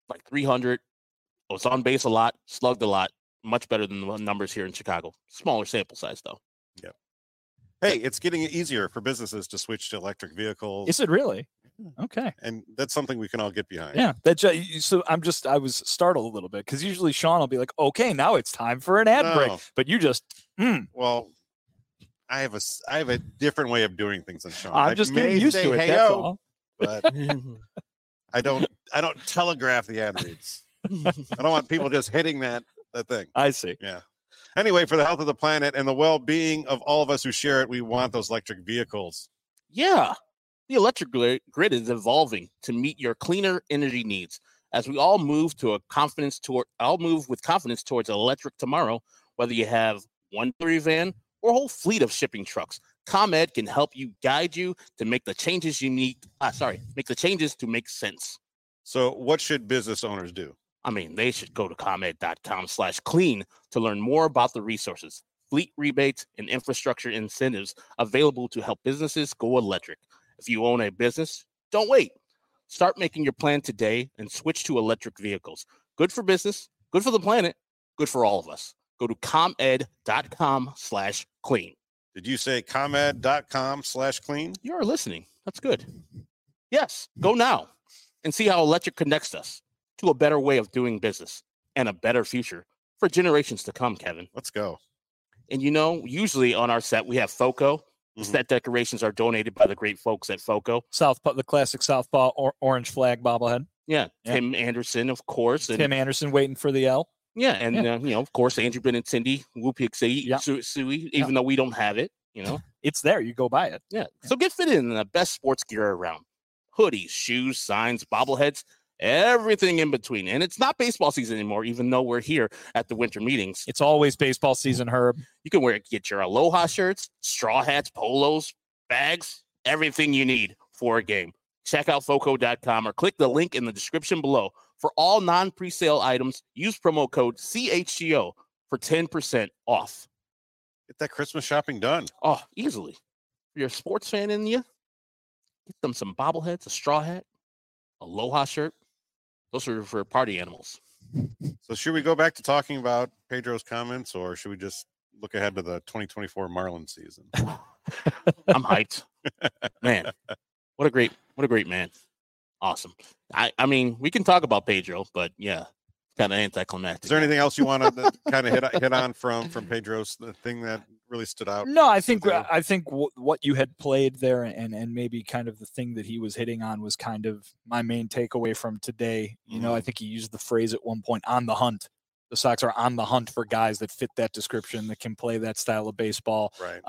like 300. Was on base a lot, slugged a lot. Much better than the numbers here in Chicago. Smaller sample size, though. Yeah. Hey, it's getting easier for businesses to switch to electric vehicles. Is it really? Okay. And that's something we can all get behind. Yeah. So I was startled a little bit because usually Sean will be like, okay, now it's time for an ad break. But you just, Well, I have a different way of doing things than Sean. I'm just getting used to it. Hey, That's all. But I don't telegraph the ad reads. I don't want people just hitting that thing. I see. Yeah. Anyway, for the health of the planet and the well-being of all of us who share it, we want those electric vehicles. Yeah. The electric grid is evolving to meet your cleaner energy needs. As we all move with confidence towards an electric tomorrow, whether you have one delivery van or a whole fleet of shipping trucks, ComEd can help you guide you to make the changes you need. Make the changes to make sense. So what should business owners do? I mean, they should go to ComEd.com/clean to learn more about the resources, fleet rebates, and infrastructure incentives available to help businesses go electric. If you own a business, don't wait. Start making your plan today and switch to electric vehicles. Good for business, good for the planet, good for all of us. Go to ComEd.com/clean. Did you say ComEd.com/clean? You are listening. That's good. Yes, go now and see how electric connects us to a better way of doing business and a better future for generations to come, Kevin. Let's go. And usually on our set, we have FOCO. The set decorations are donated by the great folks at FOCO. Southpaw, the classic Southpaw orange flag bobblehead. Yeah. Tim Anderson, of course. Tim Anderson waiting for the L. Yeah. And, of course, Andrew Benintendi, Whoopie Sui, even though we don't have it, It's there. You go buy it. Yeah. So get fitted in the best sports gear around. Hoodies, shoes, signs, bobbleheads, everything in between. And it's not baseball season anymore, even though we're here at the winter meetings. It's always baseball season, Herb. You can get your Aloha shirts, straw hats, polos, bags, everything you need for a game. Check out FOCO.com or click the link in the description below. For all non-presale items, use promo code CHGO for 10% off. Get that Christmas shopping done. Oh, easily. If you're a sports fan in you, get them some bobbleheads, a straw hat, Aloha shirt. Those are for party animals. So should we go back to talking about Pedro's comments, or should we just look ahead to the 2024 Marlins season? I'm hyped. Man, what a great man. Awesome. I mean, we can talk about Pedro, but yeah, kind of anticlimactic. Is there anything else you want to kind of hit on from Pedro's the thing that really stood out? No, I think what you had played there and maybe kind of the thing that he was hitting on was kind of my main takeaway from today. I think he used the phrase at one point, on the hunt. The Sox are on the hunt for guys that fit that description, that can play that style of baseball. Right.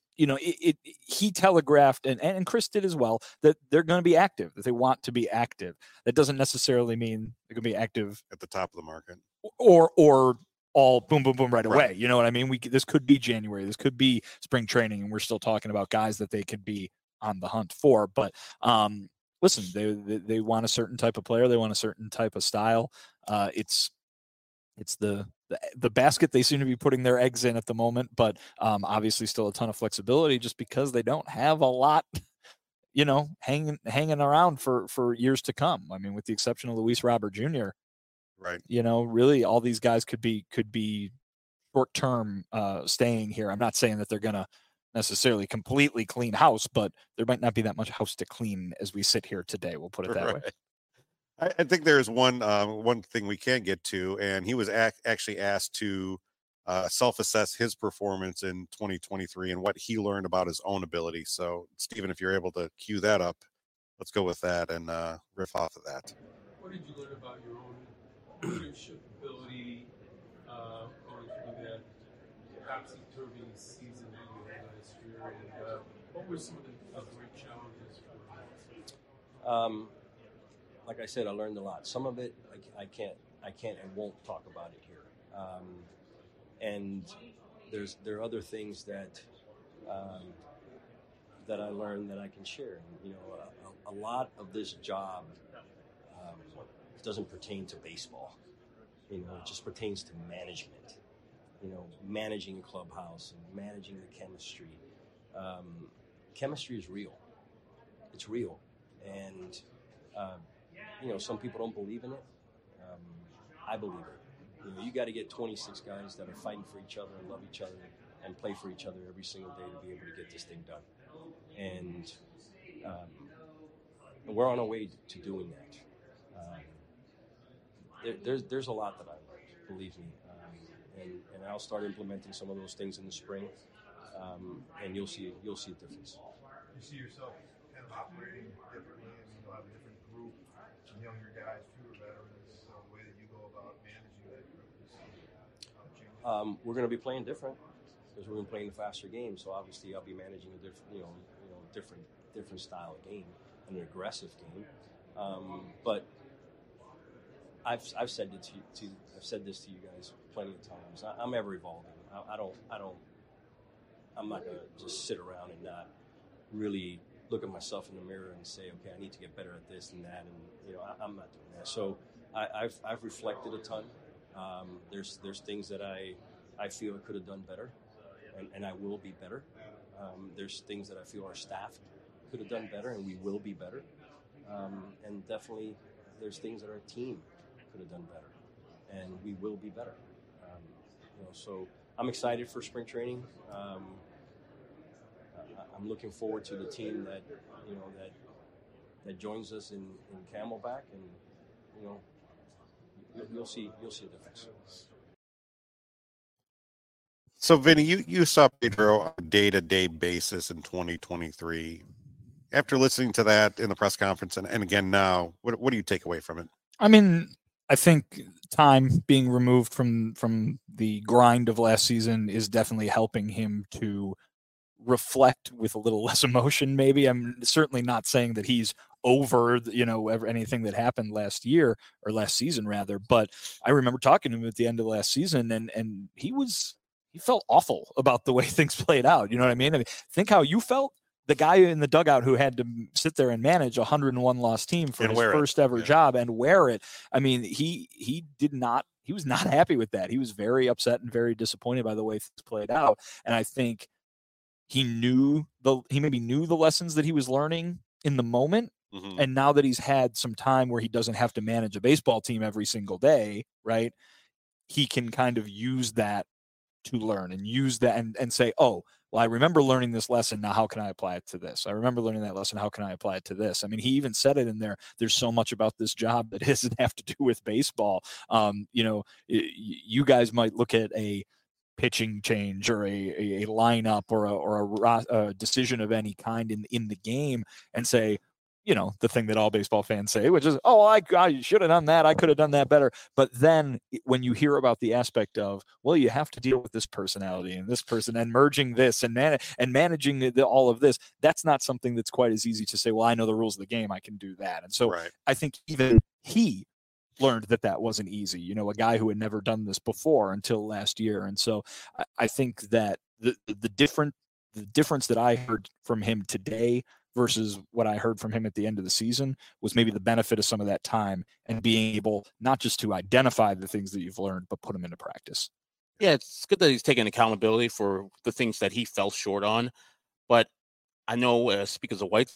He telegraphed, and Chris did as well, that they're going to be active, that they want to be active. That doesn't necessarily mean they're going to be active at the top of the market or all boom, boom, boom right away. You know what I mean? This could be January. This could be spring training, and we're still talking about guys that they could be on the hunt for. But listen, they want a certain type of player. They want a certain type of style. It's the basket they seem to be putting their eggs in at the moment, but obviously still a ton of flexibility just because they don't have a lot, hanging around for years to come. I mean, with the exception of Luis Robert Jr., right? Really all these guys could be short-term staying here. I'm not saying that they're going to necessarily completely clean house, but there might not be that much house to clean as we sit here today. We'll put it that way. I think there's one thing we can get to, and he was actually asked to self-assess his performance in 2023 and what he learned about his own ability. So, Stephen, if you're able to cue that up, let's go with that and riff off of that. What did you learn about your own leadership ability going through that topsy-turvy season that you had last year? And what were some of the great challenges for you? Like I said, I learned a lot. Some of it I can't and won't talk about it here. And there are other things that that I learned that I can share. A lot of this job doesn't pertain to baseball. It just pertains to management. Managing a clubhouse and managing the chemistry. Chemistry is real. It's real, and some people don't believe in it, I believe it. You know, you got to get 26 guys that are fighting for each other and love each other and play for each other every single day to be able to get this thing done. And we're on our way to doing that. There's a lot that I learned, believe me, and I'll start implementing some of those things in the spring, and you'll see a difference. You see yourself kind of operating differently, and you'll have a different group, younger guys, fewer veterans. So the way that you go about managing that group is changing. We're going to be playing different because we're going to be playing a faster game. So obviously, I'll be managing a different style of game, an aggressive game. But I've said it I've said this to you guys plenty of times. I'm ever evolving. I'm not going to just sit around and not really look at myself in the mirror and say, okay, I need to get better at this and that, and I'm not doing that. So I've reflected a ton. There's things that I feel I could have done better, and I will be better. There's things that I feel our staff could have done better, and we will be better. And definitely, there's things that our team could have done better, and we will be better. So I'm excited for spring training. I'm looking forward to the team that joins us in Camelback, and you'll see a difference. So, Vinny, you saw Pedro on a day-to-day basis in 2023. After listening to that in the press conference and again now, what do you take away from it? I mean, I think time being removed from the grind of last season is definitely helping him to reflect with a little less emotion. Maybe I'm certainly not saying that he's over, anything that happened last year or last season rather. But I remember talking to him at the end of last season, and he felt awful about the way things played out. You know what I mean? think how you felt. The guy in the dugout who had to sit there and manage a 101 loss team for his first ever job and wear it. I mean, he was not happy with that. He was very upset and very disappointed by the way things played out. And I think he maybe knew the lessons that he was learning in the moment. Mm-hmm. And now that he's had some time where he doesn't have to manage a baseball team every single day, right? He can kind of use that to learn and use that and say, oh, well, I remember learning this lesson. Now, how can I apply it to this? I remember learning that lesson. How can I apply it to this? I mean, he even said it in there. There's so much about this job that doesn't have to do with baseball. You guys might look at a pitching change or a lineup or a decision of any kind in the game and say, the thing that all baseball fans say, which is, oh, I should have done that. I could have done that better. But then when you hear about the aspect of, well, you have to deal with this personality and this person and merging this and managing all of this, that's not something that's quite as easy to say, well, I know the rules of the game. I can do that. And so I think even he learned that wasn't easy, a guy who had never done this before until last year. And so I think that the difference that I heard from him today versus what I heard from him at the end of the season was maybe the benefit of some of that time and being able not just to identify the things that you've learned, but put them into practice. Yeah, it's good that he's taking accountability for the things that he fell short on. But I know, speaking as a White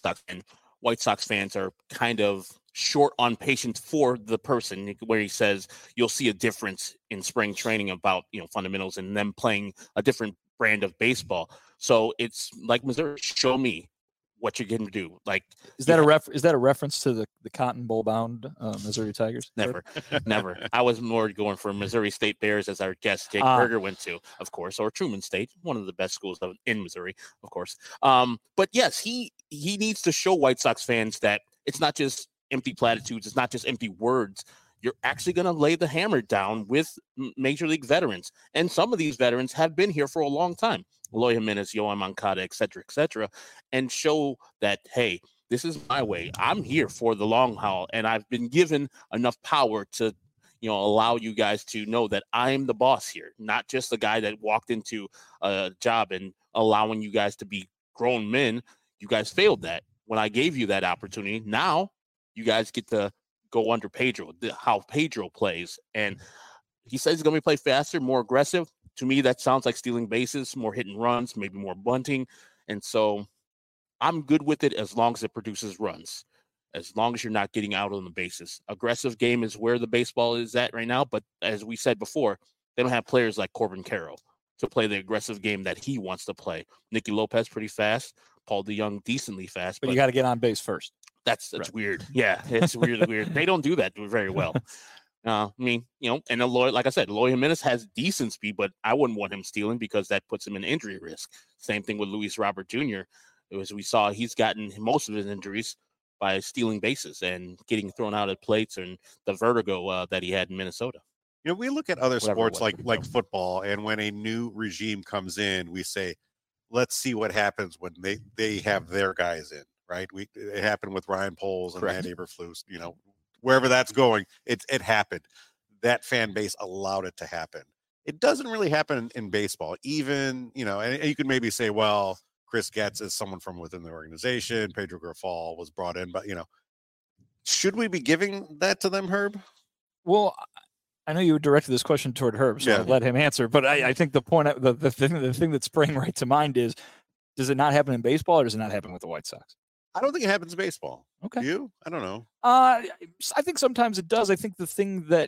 Sox fans are kind of short on patience for the person, where he says you'll see a difference in spring training about fundamentals and them playing a different brand of baseball. So it's like Missouri, show me what you're going to do. Like, is that a reference to the Cotton Bowl bound Missouri Tigers? Never. I was more going for Missouri State Bears, as our guest Jake Berger went to, of course, or Truman State, one of the best schools in Missouri, of course. But yes, he needs to show White Sox fans that it's not just empty platitudes, it's not just empty words. You're actually going to lay the hammer down with Major League veterans, and some of these veterans have been here for a long time. Eloy Jimenez, Yoan Moncada, et cetera, and show that, hey, this is my way. I'm here for the long haul, and I've been given enough power to, allow you guys to know that I'm the boss here, not just the guy that walked into a job and allowing you guys to be grown men. You guys failed that when I gave you that opportunity. Now you guys get to go under Pedro, how Pedro plays. And he says he's going to play faster, more aggressive. To me, that sounds like stealing bases, more hit and runs, maybe more bunting. And so I'm good with it as long as it produces runs. as long as you're not getting out on the bases. Aggressive game is where the baseball is at right now. But as we said before, they don't have players like Corbin Carroll to play the aggressive game that he wants to play. Nicky Lopez pretty fast. Paul DeJong decently fast. But you got to get on base first. That's Right. weird. Yeah, it's weird. They don't do that very well. I mean, and Eloy, like I said, Eloy Jimenez has decent speed, but I wouldn't want him stealing because that puts him in injury risk. Same thing with Luis Robert Jr. As we saw, he's gotten most of his injuries by stealing bases and getting thrown out at plates and the vertigo that he had in Minnesota. We look at other Whatever sports it was. like football, and when a new regime comes in, we say, let's see what happens when they have their guys in, right? It happened with Ryan Poles and Correct. Matt Eberflus, wherever that's going, it happened. That fan base allowed it to happen. It doesn't really happen in baseball, even, and you could maybe say, well, Chris Getz is someone from within the organization. Pedro Grifol was brought in, but, should we be giving that to them, Herb? Well, I know you directed this question toward Herb, so I'll let him answer. But I think the point, the thing that sprang right to mind is, does it not happen in baseball, or does it not happen with the White Sox? I don't think it happens in baseball. Okay. Do you? I don't know. I think sometimes it does. I think the thing that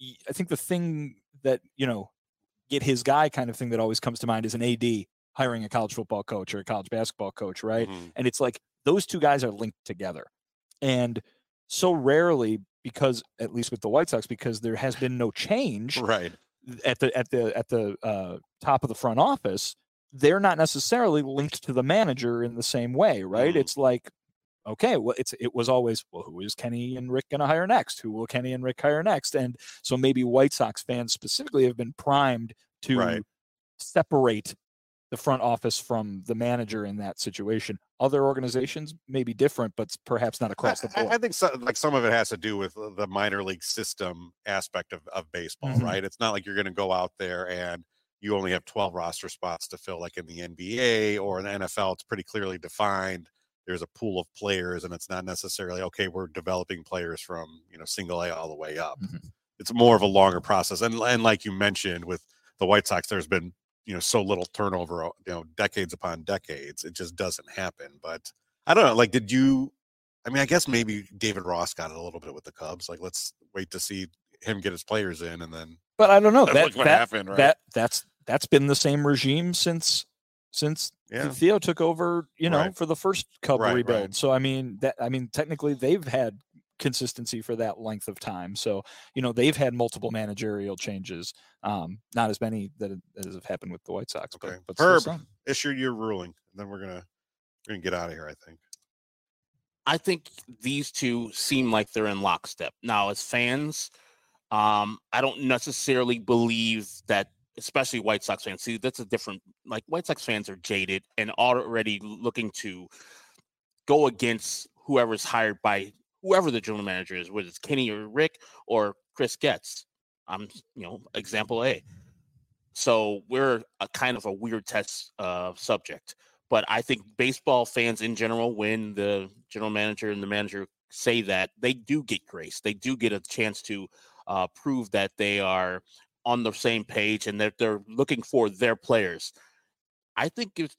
get his guy kind of thing that always comes to mind is an AD hiring a college football coach or a college basketball coach, right? Mhm. And it's like those two guys are linked together, and so rarely, because at least with the White Sox, because there has been no change Right. at the top of the front office, they're not necessarily linked to the manager in the same way, right? Mhm. It's like, okay, well, it was always, well, who is Kenny and Rick going to hire next? Who will Kenny and Rick hire next? And so maybe White Sox fans specifically have been primed to Right. separate the front office from the manager in that situation. Other organizations may be different, but perhaps not across the board. I think some of it has to do with the minor league system aspect of baseball, Mhm. right? It's not like you're going to go out there and you only have 12 roster spots to fill, like in the NBA or in the NFL. It's pretty clearly defined. There's a pool of players, and it's not necessarily, okay, we're developing players from, single A all the way up. Mhm. It's more of a longer process. And like you mentioned with the White Sox, there's been, so little turnover, decades upon decades. It just doesn't happen. But I don't know, like, I guess maybe David Ross got it a little bit with the Cubs. Like, let's wait to see him get his players in, and then. But I don't know. That's what happened, right? That's been the same regime since Yeah. Theo took over, Right. for the first Cub Right, rebuild. right. So technically they've had consistency for that length of time. So they've had multiple managerial changes, not as many that have happened with the White Sox. Okay. But still Herb, some. issue your ruling, and then we're gonna get out of here, I think. I think these two seem like they're in lockstep. Now, as fans, I don't necessarily believe that, especially White Sox fans. See, that's a different, like, White Sox fans are jaded and already looking to go against whoever's hired by whoever the general manager is, whether it's Kenny or Rick or Chris Getz. Example A. So we're a kind of a weird test subject. But I think baseball fans in general, when the general manager and the manager say that, they do get grace. They do get a chance to prove that they are on the same page and that they're looking for their players. I think if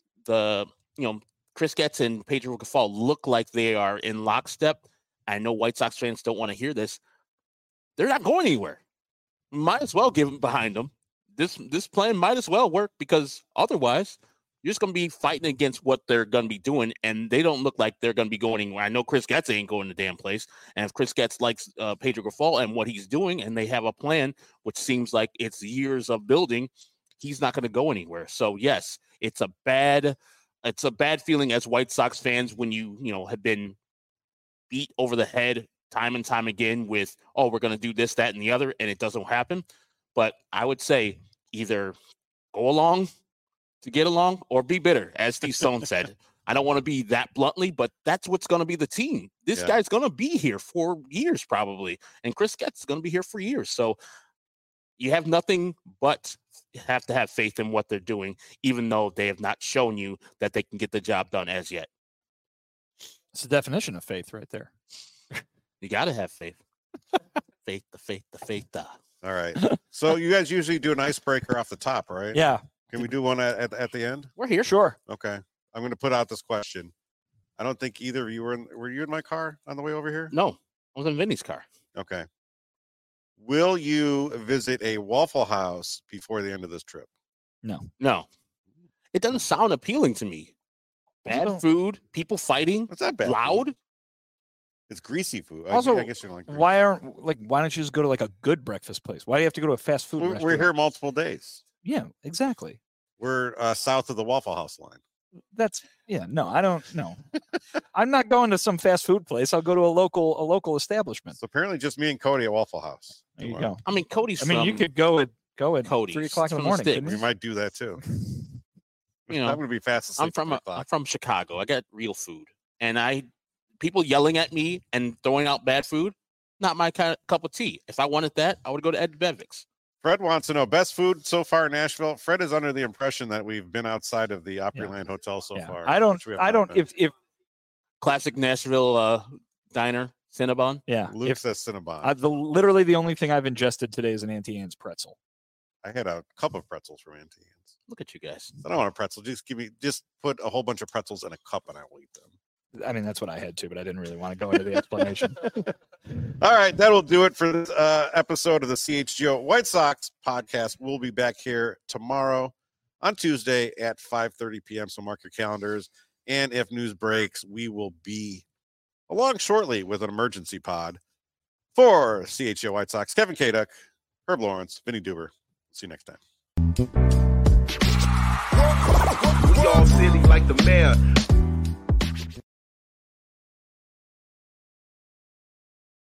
Chris Getz and Pedro Grifol look like they are in lockstep, I know White Sox fans don't want to hear this. They're not going anywhere. Might as well give them behind them. This plan might as well work, because otherwise you're just going to be fighting against what they're going to be doing, and they don't look like they're going to be going anywhere. I know Chris Getz ain't going to damn place, and if Chris Getz likes Pedro Grifol and what he's doing, and they have a plan, which seems like it's years of building, he's not going to go anywhere. So yes, it's a bad feeling as White Sox fans when you have been beat over the head time and time again with, oh, we're going to do this, that, and the other, and it doesn't happen. But I would say either go along to get along or be bitter, as Steve Stone said. I don't want to be that bluntly, but that's what's going to be the team. This guy's going to be here for years probably, and Chris Getz is going to be here for years. So you have nothing but have to have faith in what they're doing, even though they have not shown you that they can get the job done as yet. It's the definition of faith right there. You got to have faith. Faith. All right. So you guys usually do an icebreaker off the top, right? Yeah. Can we do one at the end? We're here. Sure. Okay. I'm going to put out this question. I don't think either of you were you in my car on the way over here? No, I was in Vinny's car. Okay. Will you visit a Waffle House before the end of this trip? No. It doesn't sound appealing to me. Bad food, people fighting, What's that bad? loud. It's greasy food. Also, I guess you don't like greasy. why don't you just go to like a good breakfast place? Why do you have to go to a fast food restaurant? We're here multiple days. Yeah, exactly. We're south of the Waffle House line. No, I don't know. I'm not going to some fast food place. I'll go to a local establishment. So apparently just me and Cody at Waffle House. There you tomorrow. go. I mean, Cody's. I mean, you could go at Cody's 3 o'clock in the from the morning. sticks. couldn't We you? might do that too. You know, I'm going to be fast asleep. I'm from Chicago. I got real food, and people yelling at me and throwing out bad food. Not my cup of tea. If I wanted that, I would go to Ed Bevick's. Fred wants to know best food so far in Nashville. Fred is under the impression that we've been outside of the Opryland Hotel so far. I don't. which we have not been. If Classic Nashville diner, Cinnabon. yeah, Luke if says Cinnabon. literally the only thing I've ingested today is an Auntie Anne's pretzel. I had a cup of pretzels from Auntie Anne's. Look at you guys. I don't want a pretzel. Just put a whole bunch of pretzels in a cup and I will eat them. I mean, that's what I had too, but I didn't really want to go into the explanation. All right, that'll do it for this episode of the CHGO White Sox podcast. We'll be back here tomorrow on Tuesday at 5:30 p.m. So mark your calendars. And if news breaks, we will be along shortly with an emergency pod for CHGO White Sox. Kevin Kaduk, Herb Lawrence, Vinny Duber. See you next time. We all silly like the mayor.